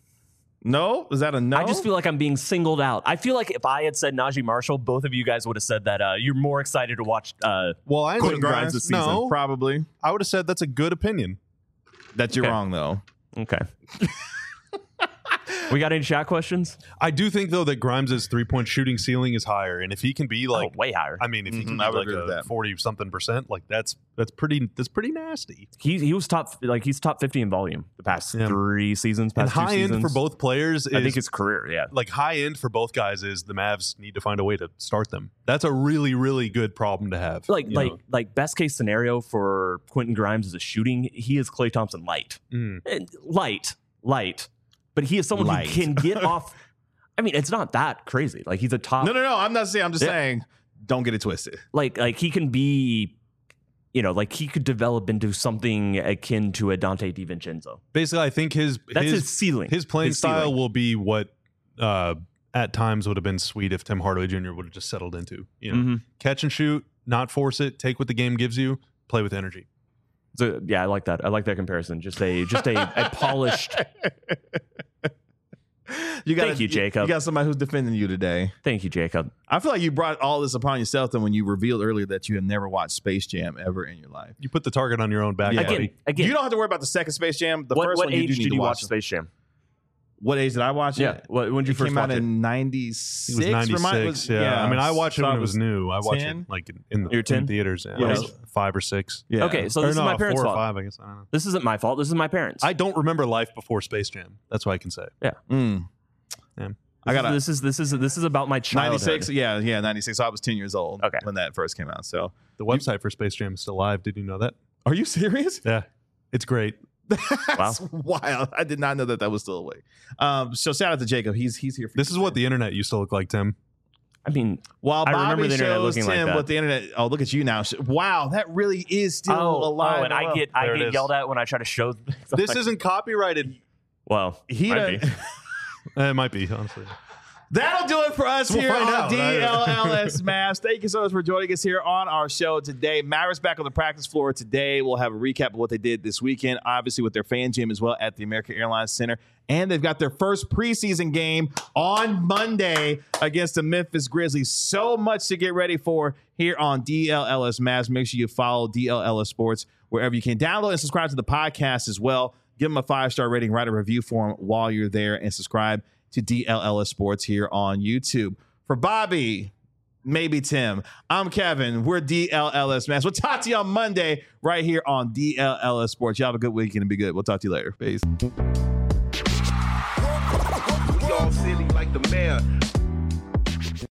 No? Is that a no? I just feel like I'm being singled out. I feel like if I had said Najee Marshall, both of you guys would have said that uh, you're more excited to watch. Uh, Well, I Quentin Grimes this season. No, Probably. I would have said that's a good opinion. That you're Okay. wrong though. okay. We got any chat questions? I do think, though, that Grimes' three-point shooting ceiling is higher. And if he can be like, oh, way higher. I mean, if he Mhm, can I be would like agree with a that. forty-something percent, like that's that's pretty that's pretty nasty. He he was top like he's top fifty in volume the past Yeah. three seasons. And Past two high end seasons. for both players is I think his career. Yeah. like high end for both guys is the Mavs need to find a way to start them. That's a really, really good problem to have. Like you like know? like best case scenario for Quentin Grimes as a shooting, he is Klay Thompson light. Mm. And light, light. But he is someone Light. who can get off. I mean, it's not that crazy. Like he's a top. No, no, no. I'm not saying. I'm just Yeah. saying. Don't get it twisted. Like like he can be. You know, like he could develop into something akin to a Dante DiVincenzo. Basically, I think his That's his, his, ceiling. his playing His style ceiling. will be what uh, at times would have been sweet if Tim Hardaway Junior would have just settled into. You know, Mhm. catch and shoot, not force it, take what the game gives you, play with energy. So yeah, I like that. I like that comparison. Just a just a, a polished. You got Thank you, Jacob. You got somebody who's defending you today. Thank you, Jacob. I feel like you brought all this upon yourself then when you revealed earlier that you have never watched Space Jam ever in your life. You put the target on your own back, Yeah. Again, buddy. again. You don't have to worry about the second Space Jam. The what first what one you age do need did to you watch watch. Space Jam? What age did I watch Yeah. it? What, when did you It first came watch out it? in ninety-six. It was ninety-six. Yeah. I mean, I watched it So when it was new. I watched ten? it like in the You're ten? in theaters. Yeah. Yeah. I was five or six. Yeah. Okay, so Or this no, is my parents' four or fault. five, I guess. I don't know. This isn't my fault. This is my parents. I don't remember life before Space Jam. That's what I can say. Mm. Yeah. I got this is this is this is about my childhood. ninety-six. Yeah, yeah, ninety-six. So I was ten years old Okay. when that first came out. So, The website for Space Jam is still live. Did you know that? are you serious? Yeah. It's great. That's wild. I did not know that that was still away. Um, so shout out to Jacob. He's he's here for This you is what today. the internet used to look like, Tim. I mean, While I Bobby remember the internet shows looking like Tim that. what the internet. Oh, look at you now. Wow, that really is still oh, alive. oh, and I get I There it get is. yelled at when I try to show. This isn't copyrighted. well, he. might done- be. It might be, honestly. That'll do it for us We'll here find on out. D L L S Mavs. Thank you so much for joining us here on our show today. Mavericks back on the practice floor today. We'll have a recap of what they did this weekend, obviously with their fan gym as well at the American Airlines Center. And they've got their first preseason game on Monday against the Memphis Grizzlies. So much to get ready for here on D L L S Mavs. Make sure you follow D L L S Sports wherever you can. Download and subscribe to the podcast as well. Give them a five-star rating, write a review for them while you're there, and subscribe to D L L S Sports here on YouTube. For Bobby, maybe Tim, I'm Kevin. We're D L L S Mavs. We'll talk to you on Monday right here on D L L S Sports. Y'all have a good weekend and be good. We'll talk to you later. Peace. We all silly like the mayor.